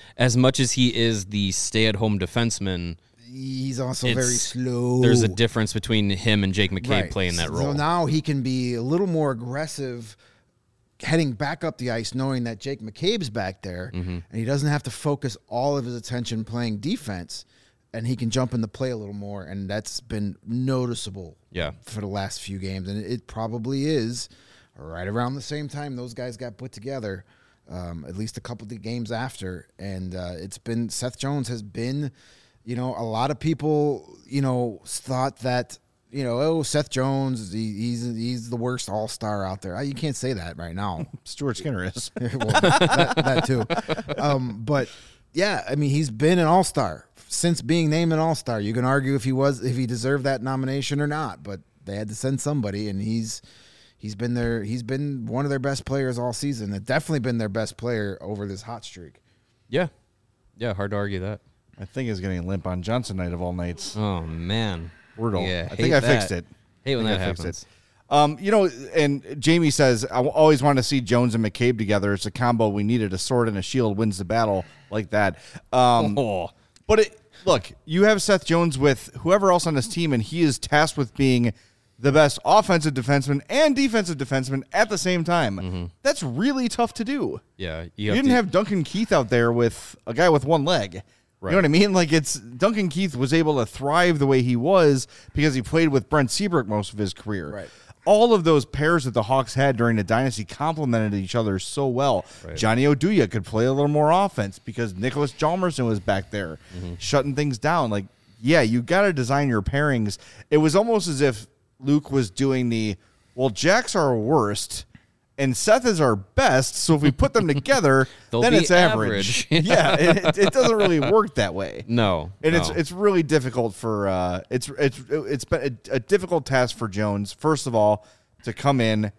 is the stay-at-home defenseman, he's also very slow. There's a difference between him and Jake McCabe playing that role. So now he can be a little more aggressive heading back up the ice knowing that Jake McCabe's back there and he doesn't have to focus all of his attention playing defense and he can jump in the play a little more, and that's been noticeable for the last few games. And it probably is right around the same time those guys got put together, at least a couple of games after. And it's been Seth Jones has been, a lot of people, thought that, Seth Jones, he's the worst all-star out there. You can't say that right now. Stuart Skinner is. Well, that too. But, yeah, I mean, he's been an all-star since being named an all-star. You can argue if he deserved that nomination or not, but they had to send somebody, and he's been there. He's been one of their best players all season. It's definitely been their best player over this hot streak. Yeah. Yeah, hard to argue that. I think he's getting limp on Johnson night of all nights. Oh, man. Brutal. Yeah, I think I fixed it. Hate when that happens. And Jamie says, I always want to see Jones and McCabe together. It's a combo we needed. A sword and a shield wins the battle like that. But look, you have Seth Jones with whoever else on this team, and he is tasked with being the best offensive defenseman and defensive defenseman at the same time. That's really tough to do. Yeah. You didn't have Duncan Keith out there with a guy with one leg. Right. You know what I mean? Like, Duncan Keith was able to thrive the way he was because he played with Brent Seabrook most of his career. Right. All of those pairs that the Hawks had during the dynasty complemented each other so well. Right. Johnny Oduya could play a little more offense because Nicholas Hjalmarsson was back there shutting things down. Like, yeah, you got to design your pairings. It was almost as if Luke was doing Jack's our worst and Seth is our best, so if we put them together, then it's average. Yeah, it doesn't really work that way. No, and it's really difficult for it's been a difficult task for Jones. First of all, to come in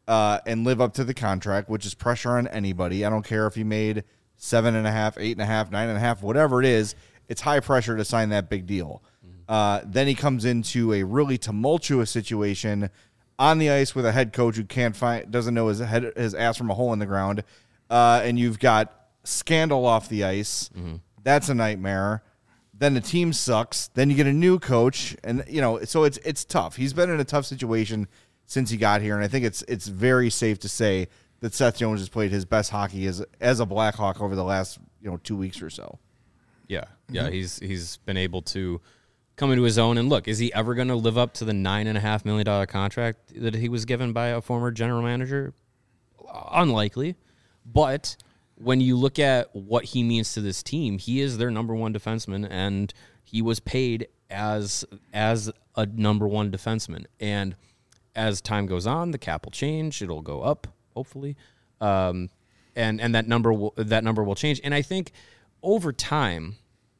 and live up to the contract, which is pressure on anybody. I don't care if he made 7.5, 8.5, 9.5, whatever it is. It's high pressure to sign that big deal. Then he comes into a really tumultuous situation on the ice with a head coach who doesn't know his ass from a hole in the ground, and you've got scandal off the ice. That's a nightmare. Then the team sucks. Then you get a new coach, and so it's tough. He's been in a tough situation since he got here, and I think it's very safe to say that Seth Jones has played his best hockey as a Blackhawk over the last 2 weeks or so. Yeah, he's been able to come into his own. And look, is he ever going to live up to the $9.5 million contract that he was given by a former general manager? Unlikely. But when you look at what he means to this team, he is their number one defenseman, and he was paid as a number one defenseman. And as time goes on, the cap will change. It'll go up, hopefully. And that number will change. And I think over time,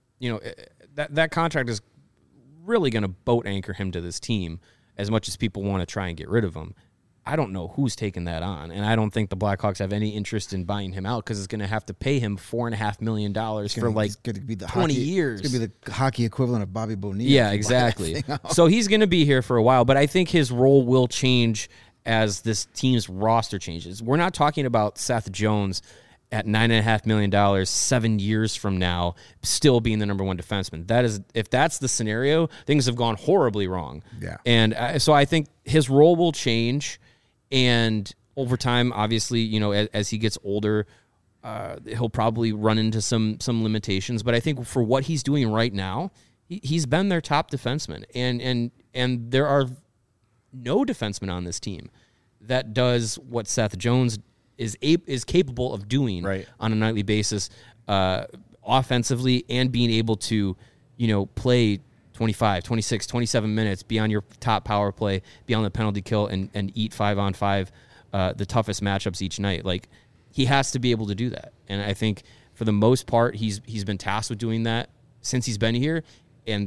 that contract is really going to boat anchor him to this team as much as people want to try and get rid of him. I don't know who's taking that on, and I don't think the Blackhawks have any interest in buying him out because it's going to have to pay him $4.5 million for like 20 years. It's going to be the hockey equivalent of Bobby Bonilla. Yeah, exactly. So he's going to be here for a while, but I think his role will change as this team's roster changes. We're not talking about Seth Jones at $9.5 million 7 years from now, still being the number one defenseman. If that's the scenario, things have gone horribly wrong. Yeah. And so I think his role will change, and over time, obviously, as he gets older, he'll probably run into some limitations. But I think for what he's doing right now, he's been their top defenseman, and there are no defenseman on this team that does what Seth Jones is capable of doing on a nightly basis, offensively, and being able to, play 25, 26, 27 minutes, be on your top power play, be on the penalty kill, and eat 5-on-5, the toughest matchups each night. Like, he has to be able to do that. And I think for the most part, he's been tasked with doing that since he's been here. And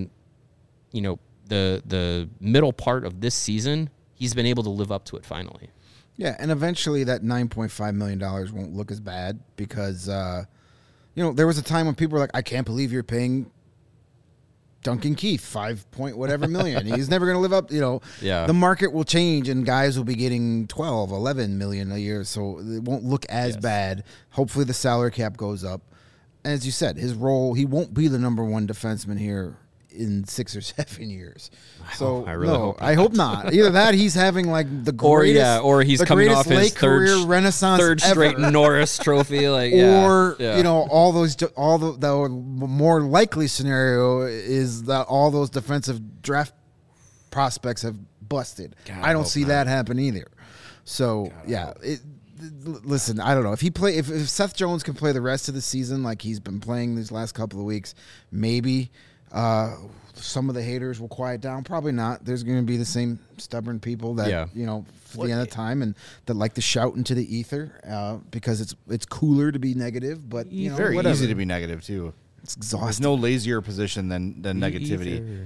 the middle part of this season, he's been able to live up to it finally. Yeah, and eventually that $9.5 million won't look as bad because, there was a time when people were like, I can't believe you're paying Duncan Keith 5 point whatever million. He's never going to live up, Yeah. The market will change and guys will be getting 12, 11 million a year, so it won't look as bad. Hopefully the salary cap goes up. And as you said, his role, he won't be the number one defenseman here in 6 or 7 years. So I really hope I hope not. Either that, he's having like the greatest, or he's coming off his third straight Norris Trophy, all the more likely scenario is that all those defensive draft prospects have busted. I don't see that happen either. So listen, I don't know if Seth Jones can play the rest of the season like he's been playing these last couple of weeks, maybe some of the haters will quiet down. Probably not. There's going to be the same stubborn people that for the end of time and that like to shout into the ether because it's cooler to be be but very whatever. easy to be negative too. It's exhausting. There's no lazier position than negativity.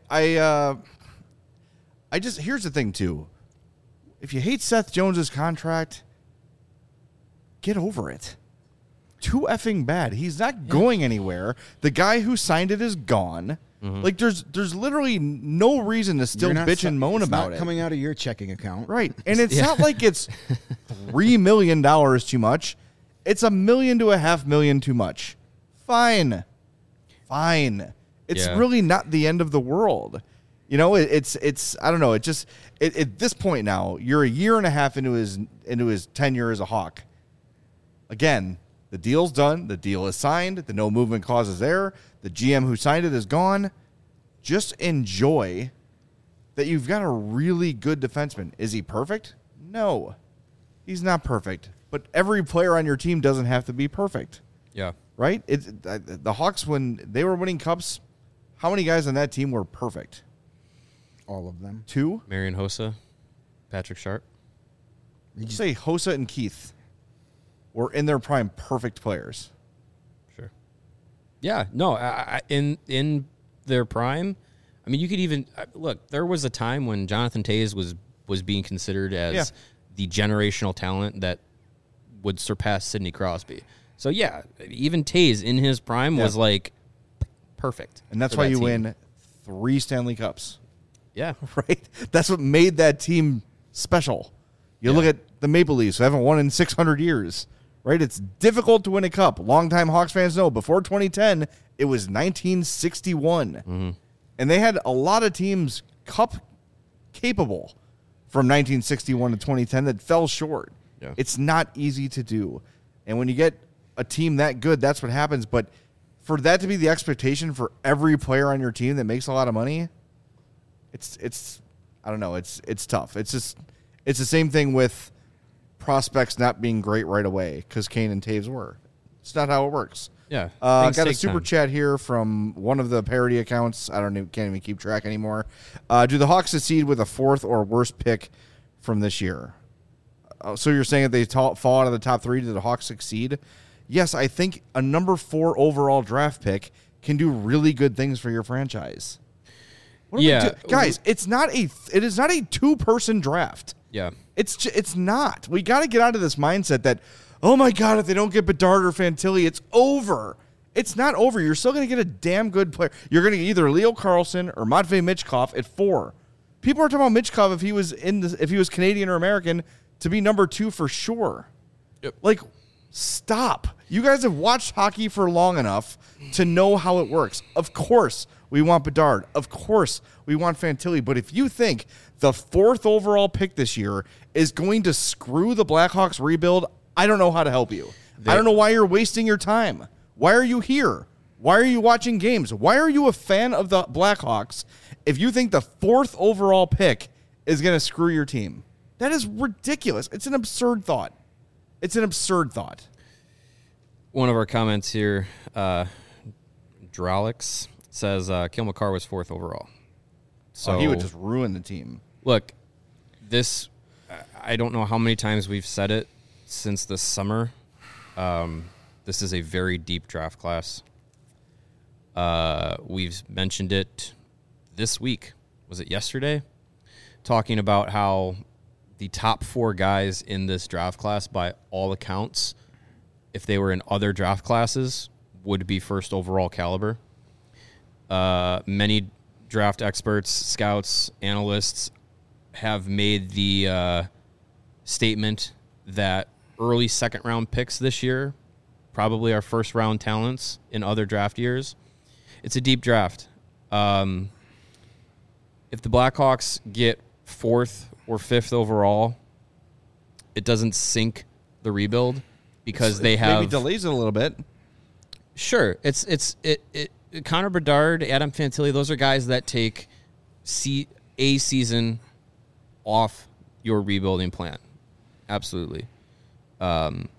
I just here's the thing too. If you hate Seth Jones's contract, get over it. Too effing bad. He's not going anywhere. The guy who signed it is gone. Mm-hmm. Like there's literally no reason to still bitch and moan about it. It's not coming out of your checking account, right? And it's not like it's $3 million too much. It's $1 million to $500,000 too much. Fine. It's really not the end of the world. It's I don't know. It just at this point now, you're a year and a half into his tenure as a Hawk. Again, the deal's done. The deal is signed. The no movement clause is there. The GM who signed it is gone. Just enjoy that you've got a really good defenseman. Is he perfect? No, he's not perfect. But every player on your team doesn't have to be perfect. Yeah. Right? The Hawks, when they were winning cups, how many guys on that team were perfect? All of them. 2? Marian Hossa, Patrick Sharp. Did you say Hossa and Keith were in their prime perfect players? Sure. Yeah. No. In their prime, I mean, you could even look. There was a time when Jonathan Toews was being considered as the generational talent that would surpass Sidney Crosby. So yeah, even Toews in his prime was like perfect, and that's why you win 3 Stanley Cups. Yeah. Right? That's what made that team special. You look at the Maple Leafs, who haven't won in 600 years, right? It's difficult to win a cup. Longtime Hawks fans know. Before 2010, it was 1961. Mm-hmm. And they had a lot of teams cup capable from 1961 to 2010 that fell short. Yeah. It's not easy to do. And when you get a team that good, that's what happens. But for that to be the expectation for every player on your team that makes a lot of money, it's I don't know, it's tough. It's the same thing with prospects not being great right away because Kane and Toews were. It's not how it works. Yeah. Got a super chat here from one of the parody accounts. Can't even keep track anymore. Do the Hawks succeed with a 4th or worse pick from this year? So you're saying if they fall out of the top 3, do the Hawks succeed? Yes, I think a number 4 overall draft pick can do really good things for your franchise. Guys, it is not a 2-person draft. Yeah. It's not. We got to get out of this mindset that, oh my God, if they don't get Bedard or Fantilli, it's over. It's not over. You're still going to get a damn good player. You're going to get either Leo Carlsson or Matvei Michkov at 4. People are talking about Michkov if he was Canadian or American to be number 2 for sure. Yep. Like, stop. You guys have watched hockey for long enough to know how it works. Of course, we want Bedard. Of course, we want Fantilli. But if you think the 4th overall pick this year is going to screw the Blackhawks rebuild, I don't know how to help you. I don't know why you're wasting your time. Why are you here? Why are you watching games? Why are you a fan of the Blackhawks if you think the 4th overall pick is going to screw your team? That is ridiculous. It's an absurd thought. One of our comments here, Drolix, says Cale Makar was 4th overall. So he would just ruin the team. Look, I don't know how many times we've said it since this summer. This is a very deep draft class. We've mentioned it this week. Was it yesterday? Talking about how the top 4 guys in this draft class, by all accounts, if they were in other draft classes, would be 1st overall caliber. Many draft experts, scouts, analysts have made the statement that early 2nd-round picks this year probably are 1st-round talents in other draft years. It's a deep draft. If the Blackhawks get 4th or 5th overall, it doesn't sink the rebuild because they have maybe delays it a little bit. Sure, it. Connor Bedard, Adam Fantilli, those are guys that take a season off your rebuilding plan. Absolutely. But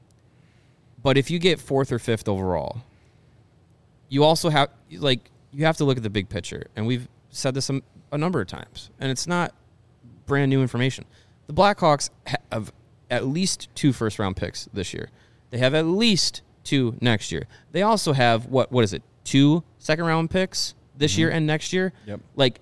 if you get 4th or 5th overall, you also have you have to look at the big picture, and we've said this a number of times, and it's not brand new information. The Blackhawks have at least 2 first-round picks this year. They have at least 2 next year. They also have, what is it, 2 second-round picks this year and next year? Yep. Like,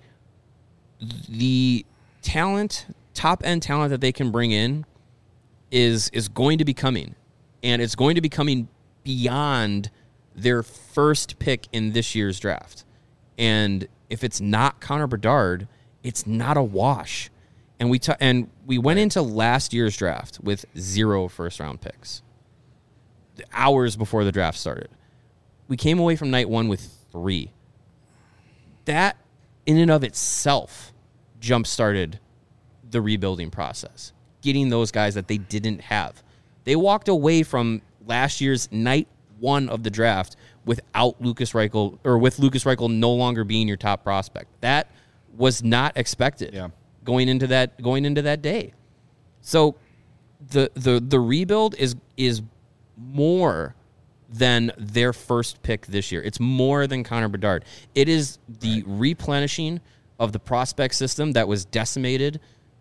the talent, top-end talent that they can bring in is going to be coming, and it's going to be coming beyond their first pick in this year's draft. And if it's not Connor Bedard, it's not a wash. And we went into last year's draft with 0 first-round picks hours before the draft started. We came away from night 1 with 3. That, in and of itself, jump-started the rebuilding process, getting those guys that they didn't have. They walked away from last year's night 1 of the draft without Lukas Reichel, or with Lukas Reichel no longer being your top prospect. That was not expected going into that day. So the rebuild is more than their first pick this year. It's more than Connor Bedard. It is the replenishing of the prospect system that was decimated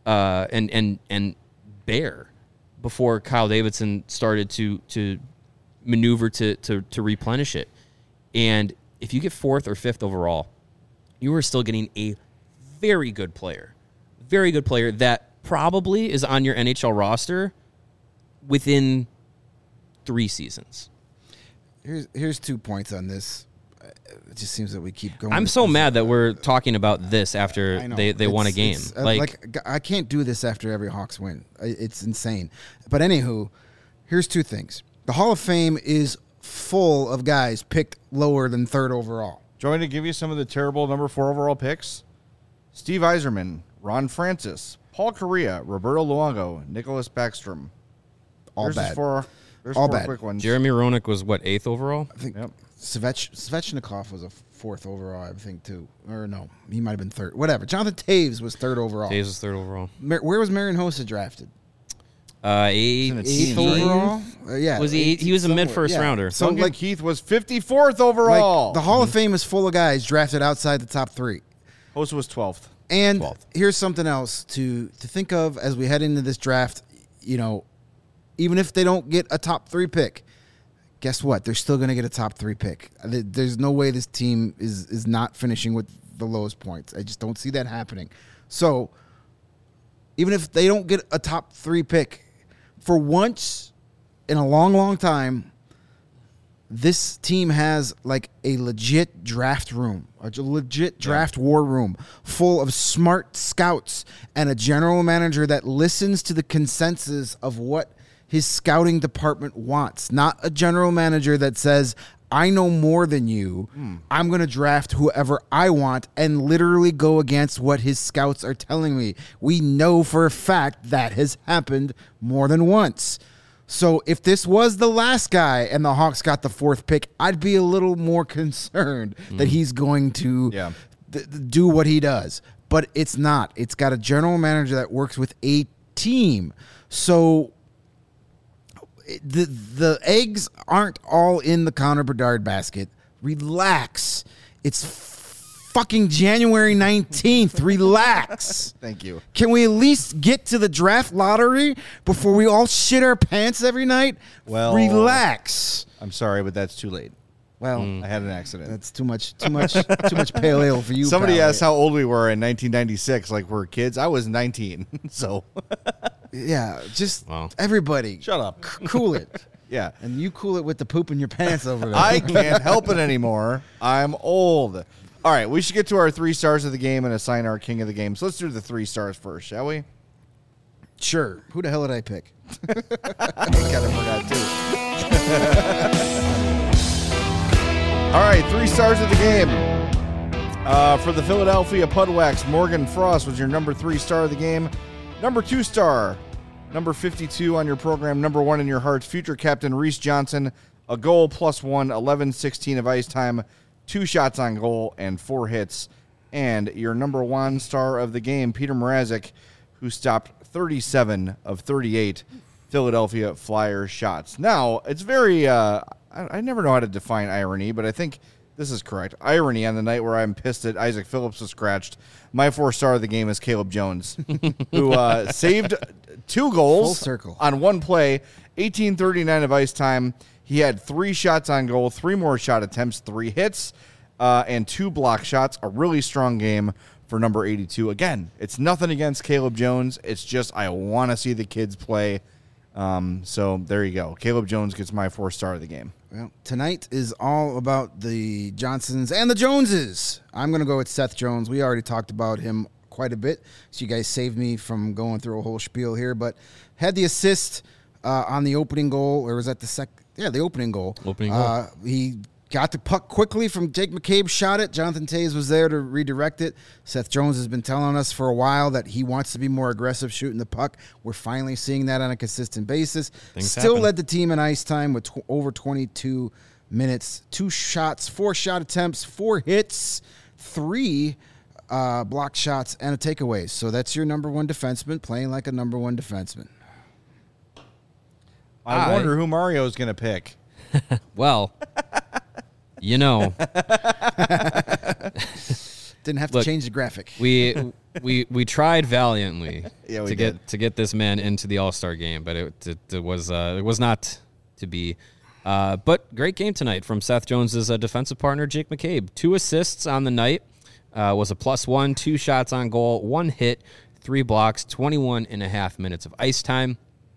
and bare before Kyle Davidson started to maneuver to replenish it. And if you get 4th or 5th overall, you are still getting a very good player that probably is on your NHL roster within 3 seasons. Here's 2 points on this. It just seems that we keep going. I'm so mad that we're talking about this after they won a game. I can't do this after every Hawks win. It's insane. But anywho, here's 2 things. The Hall of Fame is full of guys picked lower than 3rd overall. Do you want me to give you some of the terrible number 4 overall picks? Steve Yzerman, Ron Francis, Paul Correa, Roberto Luongo, Nicholas Backstrom. All bad. There's all 4 bad. quick ones. Jeremy Roenick was, 8th overall? I think Svechnikov was a 4th overall, I think, too. Or no, he might have been 3rd. Whatever. Jonathan Taves was 3rd overall. Taves was 3rd overall. Where was Marian Hossa drafted? 8th overall? Yeah. Was he was a mid-first rounder. So Duncan Keith was 54th overall. The Hall of Fame is full of guys drafted outside the top 3. Hossa was 12th. And here's something else to think of as we head into this draft. Even if they don't get a top 3 pick, guess what? They're still going to get a top 3 pick. There's no way this team is not finishing with the lowest points. I just don't see that happening. So even if they don't get a top 3 pick, for once in a long, long time, this team has like a legit draft room, a legit draft war room full of smart scouts and a general manager that listens to the consensus of what his scouting department wants. Not a general manager that says, I know more than you. I'm going to draft whoever I want and literally go against what his scouts are telling me. We know for a fact that has happened more than once. So if this was the last guy and the Hawks got the 4th pick, I'd be a little more concerned that he's going to do what he does. But it's not. It's got a general manager that works with a team. So the eggs aren't all in the Connor Bedard basket. Relax. It's fucking January 19th. Relax. Thank you. Can we at least get to the draft lottery before we all shit our pants every night? Well, relax. I'm sorry, but that's too late. Well, I had an accident. That's too much pale ale for you. Somebody pal. asked how old we were in 1996. Like we're kids. I was 19. So yeah, just everybody shut up. Cool it. Yeah, and you cool it with the poop in your pants over there. I can't help it anymore. I'm old. All right, we should get to our 3 stars of the game and assign our king of the game. So let's do the 3 stars first, shall we? Sure. Who the hell did I pick? I kind of forgot too. All right, 3 stars of the game. For the Philadelphia Pudwax, Morgan Frost was your number 3 star of the game. Number 2 star, number 52 on your program, number 1 in your hearts, future captain Reese Johnson, a goal +1, 11-16 of ice time, 2 shots on goal, and 4 hits. And your number 1 star of the game, Peter Mrazek, who stopped 37 of 38 Philadelphia Flyers shots. Now, it's very, I never know how to define irony, but I think this is correct. Irony on the night where I'm pissed that Isaac Phillips was scratched. My 4 star of the game is Caleb Jones, who saved 2 goals Full circle. on 1 play, 18:39 of ice time. He had 3 shots on goal, 3 more shot attempts, 3 hits, and 2 block shots. A really strong game for number 82. Again, it's nothing against Caleb Jones. It's just I want to see the kids play. So there you go. Caleb Jones gets my 4 star of the game. Well, tonight is all about the Johnsons and the Joneses. I'm going to go with Seth Jones. We already talked about him quite a bit, so you guys saved me from going through a whole spiel here. But had the assist on the opening goal, or was that the second? Yeah, the opening goal. He got the puck quickly from Jake McCabe, shot it. Jonathan Toews was there to redirect it. Seth Jones has been telling us for a while that he wants to be more aggressive shooting the puck. We're finally seeing that on a consistent basis. Still led the team in ice time with over 22 minutes. 2 shots, 4 shot attempts, 4 hits, 3 block shots, and a takeaway. So that's your number 1 defenseman playing like a number 1 defenseman. I wonder who Mario's going to pick. Well, you know, didn't have to change the graphic. We tried valiantly to get this man into the All-Star game, but it was not to be. But great game tonight from Seth Jones's defensive partner Jake McCabe. 2 assists on the night, was a +1, 2 shots on goal, 1 hit, 3 blocks, 21.5 minutes of ice time.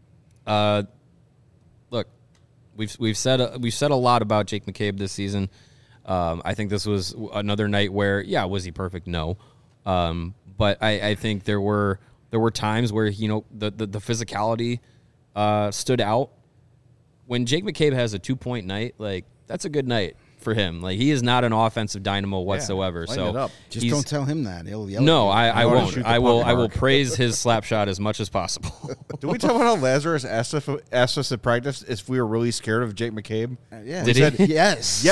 Look, we've said a lot about Jake McCabe this season. I think this was another night where, was he perfect? No. But I think there were times where, the physicality stood out. When Jake McCabe has a 2-point night, like, that's a good night for him. Like, he is not an offensive dynamo whatsoever. So just don't tell him that. He'll yell. No, I won't. I will praise his slap shot as much as possible. Did we talk about how Lazarus asked us at practice if we were really scared of Jake McCabe? Yeah. Did he? Said, yes.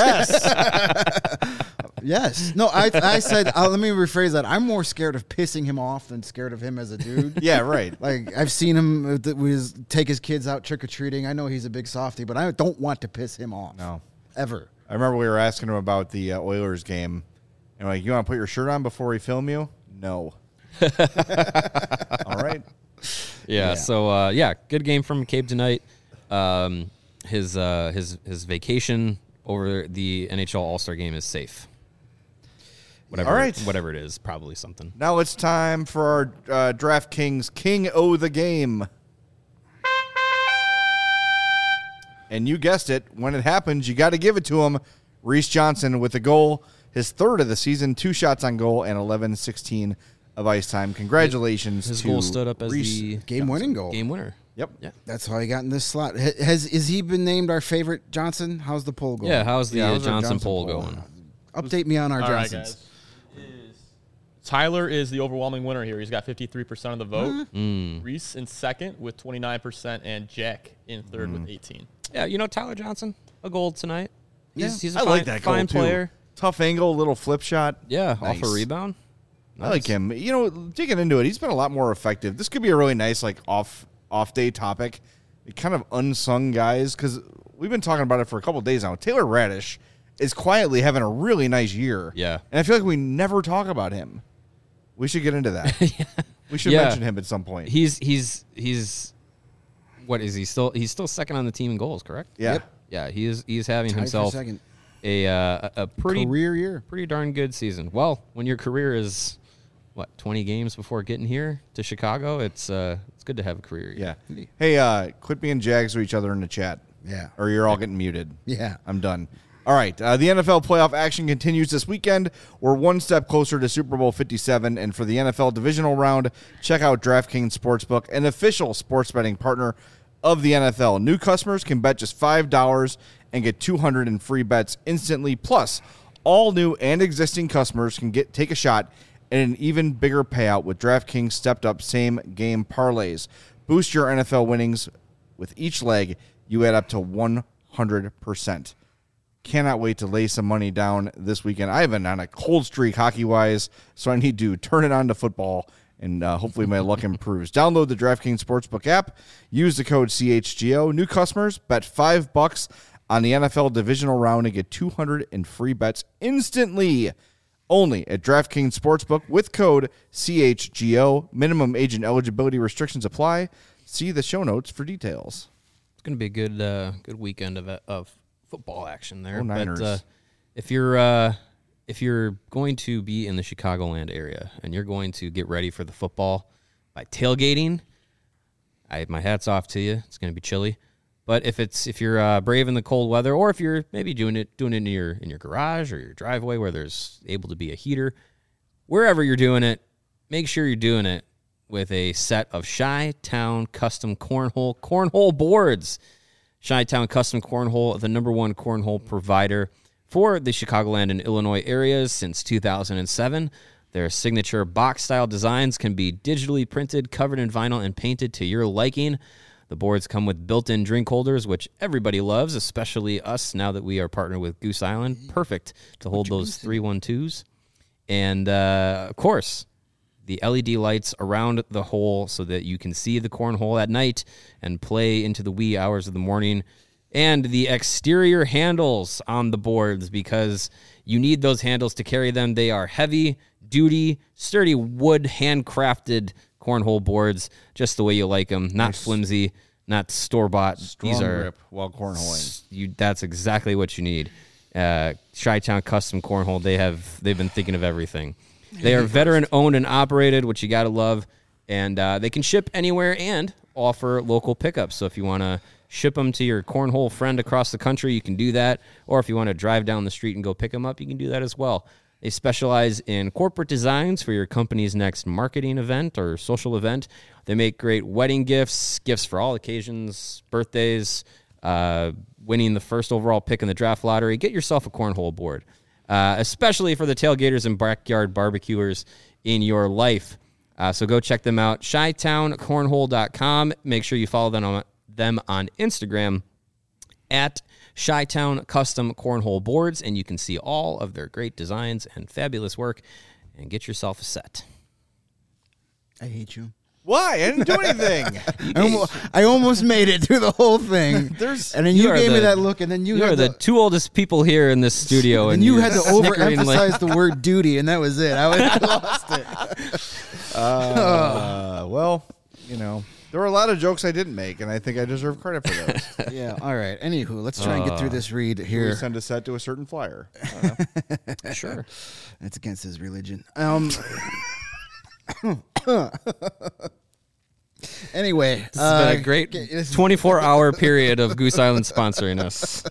Yes. No, I said, let me rephrase that. I'm more scared of pissing him off than scared of him as a dude. Yeah, right. Like, I've seen him take his kids out trick-or-treating. I know he's a big softie, but I don't want to piss him off. No. Ever. I remember we were asking him about the Oilers game. And like, you want to put your shirt on before we film you? No. All right. Yeah. So, good game from McCabe tonight. His vacation over the NHL All-Star game is safe. Whatever it is, probably something. Now it's time for our DraftKings King O' the Game. And you guessed it. When it happens, you got to give it to him. Reese Johnson with a goal, his 3rd of the season, 2 shots on goal, and 11-16 of ice time. Congratulations his to goal stood up as Reese the game-winning goal. Game winner. Yep. Yeah. That's how he got in this slot. Is he been named our favorite Johnson? How's the poll going? Yeah, how's the how's our Johnson Johnson poll poll going? Update me on our All right, Johnsons. guys. Tyler is the overwhelming winner here. He's got 53% of the vote. Reese in 2nd with 29%, and Jack in 3rd with 18%. Yeah, Tyler Johnson, a goal tonight. He's a I fine, like that goal, fine too. player. Tough angle, little flip shot. Yeah, Nice. off a rebound. I like him. Digging into it, he's been a lot more effective. This could be a really nice, off day topic. Kind of unsung guys, because we've been talking about it for a couple of days now. Taylor Radish is quietly having a really nice year. Yeah. And I feel like we never talk about him. We should get into that. We should mention him at some point. He's what is he still? He's still 2nd on the team in goals, correct? Yeah. Yep. Yeah, he's having Tied for himself second. a pretty Career year. pretty darn good season. Well, when your career is 20 games before getting here to Chicago, it's good to have a career year. Yeah. Hey, quit being jags to each other in the chat. Yeah. Or you're all getting muted. Yeah. I'm done. All right. The NFL playoff action continues this weekend. We're one step closer to Super Bowl 57. And for the NFL divisional round, check out DraftKings Sportsbook, an official sports betting partner of the NFL. New customers can bet just $5 and get $200 in free bets instantly. Plus, all new and existing customers can take a shot at an even bigger payout with DraftKings stepped-up same-game parlays. Boost your NFL winnings with each leg. You add up to 100%. Cannot wait to lay some money down this weekend. I've been on a cold streak hockey-wise, so I need to turn it on to football, and hopefully my luck improves. Download the DraftKings Sportsbook app. Use the code CHGO. New customers, bet $5 on the NFL divisional round and get $200 in free bets instantly. Only at DraftKings Sportsbook with code CHGO. Minimum age and eligibility restrictions apply. See the show notes for details. It's going to be a good weekend of football action there. Niners. But if you're going to be in the Chicagoland area and you're going to get ready for the football by tailgating, my hat's off to you. It's going to be chilly. But if you're brave in the cold weather, or if you're maybe doing it in your garage or your driveway where there's able to be a heater, wherever you're doing it, make sure you're doing it with a set of Chi-Town Custom Cornhole boards. Chi-Town Custom Cornhole, the #1 cornhole provider for the Chicagoland and Illinois areas since 2007. Their signature box-style designs can be digitally printed, covered in vinyl, and painted to your liking. The boards come with built-in drink holders, which everybody loves, especially us now that we are partnered with Goose Island. Perfect to hold those 312s. And, of course, the LED lights around the hole so that you can see the cornhole at night and play into the wee hours of the morning. And the exterior handles on the boards, because you need those handles to carry them. They are heavy-duty, sturdy wood, handcrafted cornhole boards, just the way you like them. Not flimsy, not store-bought. Strong grip while cornholing. That's exactly what you need. Chi-Town Custom Cornhole, they've been thinking of everything. They are veteran-owned and operated, which you got to love, and they can ship anywhere and offer local pickups. So if you want to ship them to your cornhole friend across the country, you can do that. Or if you want to drive down the street and go pick them up, you can do that as well. They specialize in corporate designs for your company's next marketing event or social event. They make great wedding gifts for all occasions, birthdays, winning the first overall pick in the draft lottery. Get yourself a cornhole board. Especially for the tailgaters and backyard barbecuers in your life. So go check them out, ChiTownCornhole.com. Make sure you follow them on Instagram at Chi-Town Custom Cornhole Boards, and you can see all of their great designs and fabulous work, and get yourself a set. I hate you. Why? I didn't do anything. I almost made it through the whole thing. And then you gave me that look, and then you are the two oldest people here in this studio. And you had to overemphasize the word duty, and that was it. I lost it. Well, there were a lot of jokes I didn't make, and I think I deserve credit for those. Yeah, all right. Anywho, let's try and get through this read here. We send a set to a certain flyer. Sure. That's against his religion. Anyway, this has been a great 24-hour period of Goose Island sponsoring us.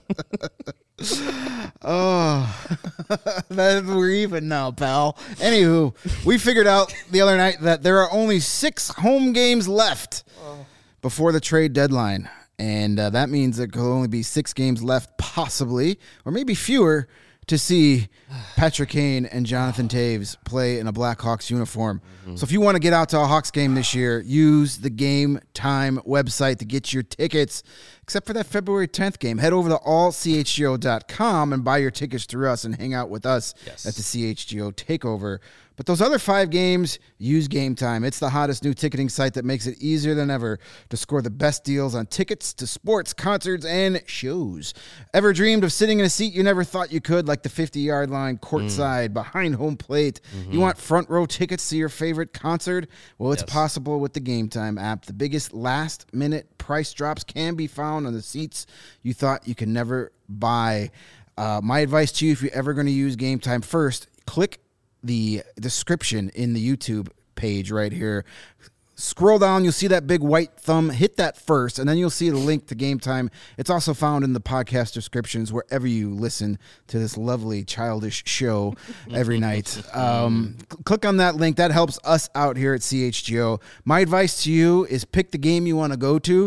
We're even now, pal. Anywho, we figured out the other night that there are only 6 home games left before the trade deadline. And that means there could only be 6 games left, possibly, or maybe fewer, to see Patrick Kane and Jonathan Toews play in a Blackhawks uniform. Mm-hmm. So if you want to get out to a Hawks game this year, use the Game Time website to get your tickets, except for that February 10th game. Head over to allchgo.com and buy your tickets through us and hang out with us at the CHGO Takeover. But those other 5 games, use Game Time. It's the hottest new ticketing site that makes it easier than ever to score the best deals on tickets to sports, concerts, and shows. Ever dreamed of sitting in a seat you never thought you could, like the 50-yard line, courtside, behind home plate? Mm-hmm. You want front row tickets to your favorite concert? Well, it's possible with the Game Time app. The biggest last-minute price drops can be found on the seats you thought you could never buy. My advice to you, if you're ever going to use Game Time, first, click the description in the YouTube page right here. Scroll down, you'll see that big white thumb. Hit that first, and then you'll see the link to Game Time. It's also found in the podcast descriptions wherever you listen to this lovely childish show every night. Click on that link. That helps us out here at CHGO. My advice to you is pick the game you want to go to.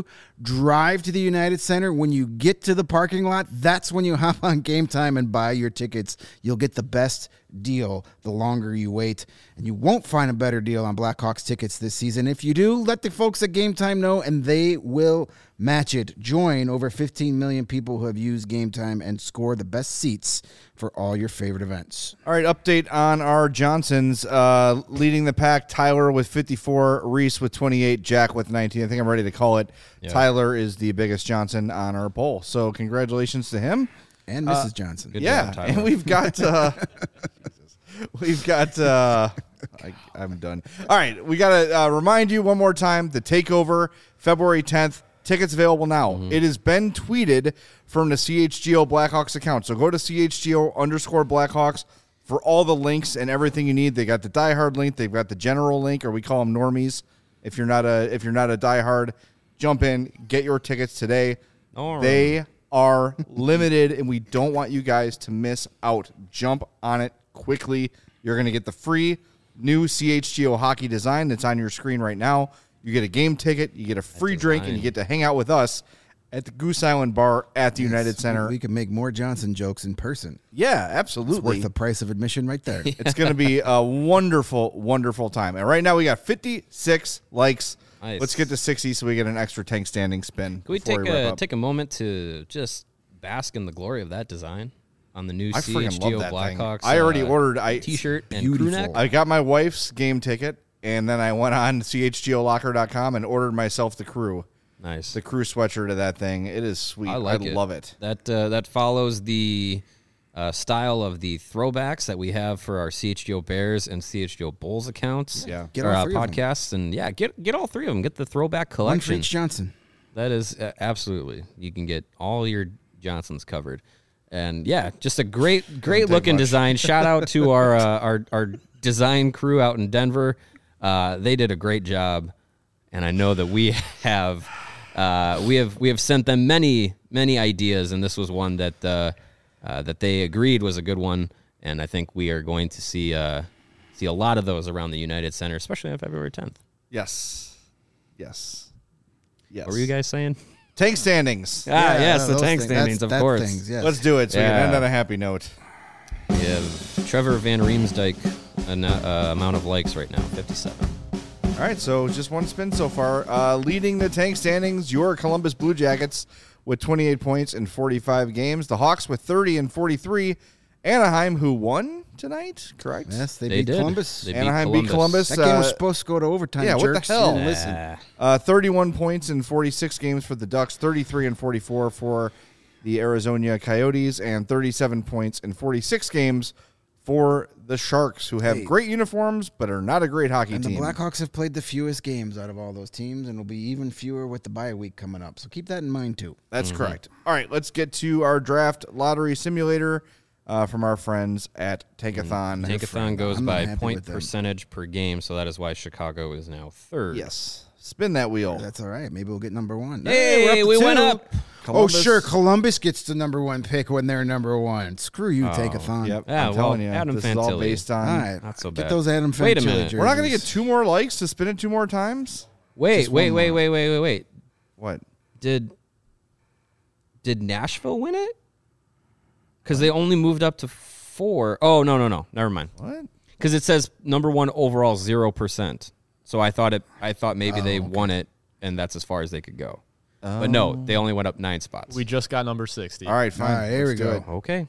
drive to the United Center. When you get to the parking lot, that's when you hop on Game Time and buy your tickets. You'll get the best deal the longer you wait, and you won't find a better deal on Blackhawks tickets this season. If you do, let the folks at Game Time know, and they will match it. Join over 15 million people who have used Game Time and score the best seats for all your favorite events. All right, update on our Johnsons. Leading the pack, Tyler with 54, Reese with 28, Jack with 19. I think I'm ready to call it. Yeah. Tyler is the biggest Johnson on our poll. So congratulations to him. And Mrs. Johnson. Good job, Tyler. And we've got... I'm done. All right, we got to remind you one more time, the Takeover, February 10th. Tickets available now. Mm-hmm. It has been tweeted from the CHGO Blackhawks account. So go to CHGO_Blackhawks for all the links and everything you need. They got the diehard link. They've got the general link, or we call them normies. If you're not a diehard, jump in, get your tickets today. All right. They are limited, and we don't want you guys to miss out. Jump on it quickly. You're going to get the free new CHGO hockey design that's on your screen right now. You get a game ticket, you get a free drink, and you get to hang out with us at the Goose Island Bar at the United Center. We can make more Johnson jokes in person. Yeah, absolutely. It's worth the price of admission right there. It's going to be a wonderful, wonderful time. And right now we got 56 likes. Nice. Let's get to 60 so we get an extra tank standing spin. Can we take a moment to just bask in the glory of that design on the new CHGO Blackhawks? I already ordered T-shirt and crew neck. I got my wife's game ticket. And then I went on CHGOlocker.com and ordered myself the crew. Nice. The crew sweatshirt of that thing. It is sweet. I love it. That follows the style of the throwbacks that we have for our CHGO Bears and CHGO Bulls accounts. Yeah. Get all three podcasts. And yeah, get all three of them. Get the throwback collection. One for each Johnson. That is absolutely. You can get all your Johnsons covered. And yeah, just a great looking design. Shout out to our design crew out in Denver. They did a great job, and I know that we have sent them many ideas, and this was one that they agreed was a good one, and I think we are going to see a lot of those around the United Center, especially on February 10th. Yes. What were you guys saying? Tank standings. Yes, the tank standings, of course. Things, yes. Let's do it so we can end on a happy note. We have Trevor Van Riemsdyk. Amount of likes right now, 57. All right, so just one spin so far. Leading the tank standings, your Columbus Blue Jackets with 28 points in 45 games. The Hawks with 30 and 43. Anaheim, who won tonight, correct? Yes, they beat Columbus. Anaheim beat Columbus. That game was supposed to go to overtime. Yeah, jerks. What the hell? Listen. 31 points in 46 games for the Ducks, 33 and 44 for the Arizona Coyotes, and 37 points in 46 games for the Sharks, who have great uniforms but are not a great hockey team. And the Blackhawks have played the fewest games out of all those teams, and will be even fewer with the bye week coming up. So keep that in mind, too. That's correct. All right, let's get to our draft lottery simulator from our friends at Tankathon. Tankathon goes by point percentage per game, so that is why Chicago is now third. Yes. Spin that wheel. That's all right. Maybe we'll get number one. Hey, we went up. Columbus. Oh, sure. Columbus gets the number one pick when they're number one. Screw you, Tankathon. Yep. Yeah, I'm telling you. Adam this Fantilli. is all based on. All right. Not so bad. Get those Adam Fantilli. Wait a minute. Jerseys. We're not going to get 2 more likes to spin it 2 more times? Wait. What? Did Nashville win it? Because they only moved up to 4. Oh, no. Never mind. What? Because it says number one overall 0%. So I thought maybe they won it, and that's as far as they could go. But no, they only went up 9 spots. We just got number 60. All right, fine. All right, here we go. Okay.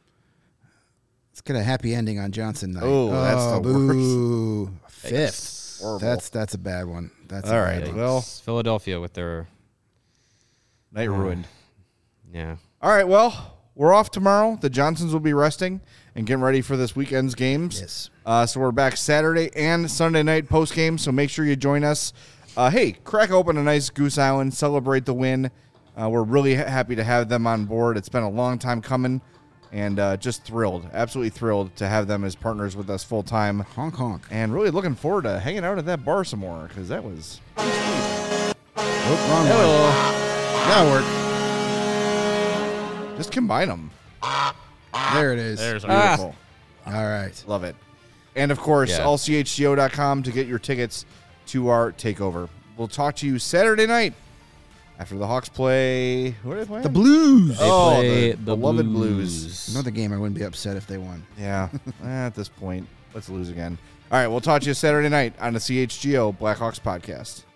Let's get a happy ending on Johnson night. Oh, that's the boo. worst. 5th. Horrible. That's a bad one. That's all a right. bad one. Well, Philadelphia with their night ruined. Yeah. All right. Well, we're off tomorrow. The Johnsons will be resting and getting ready for this weekend's games. Yes. So we're back Saturday and Sunday night post game. So make sure you join us. Hey, crack open a nice Goose Island. Celebrate the win. We're really happy to have them on board. It's been a long time coming, and just thrilled, absolutely thrilled to have them as partners with us full time. Honk honk. And really looking forward to hanging out at that bar some more because that was. Oh, wrong one. That'll work. Just combine them. There it is. There's Beautiful. All right. Love it. And, of course, allchgo.com to get your tickets to our takeover. We'll talk to you Saturday night. After the Hawks play, who are they playing? The Blues. They play the beloved Blues. Another game I wouldn't be upset if they won. Yeah, at this point, let's lose again. All right, we'll talk to you Saturday night on the CHGO Blackhawks podcast.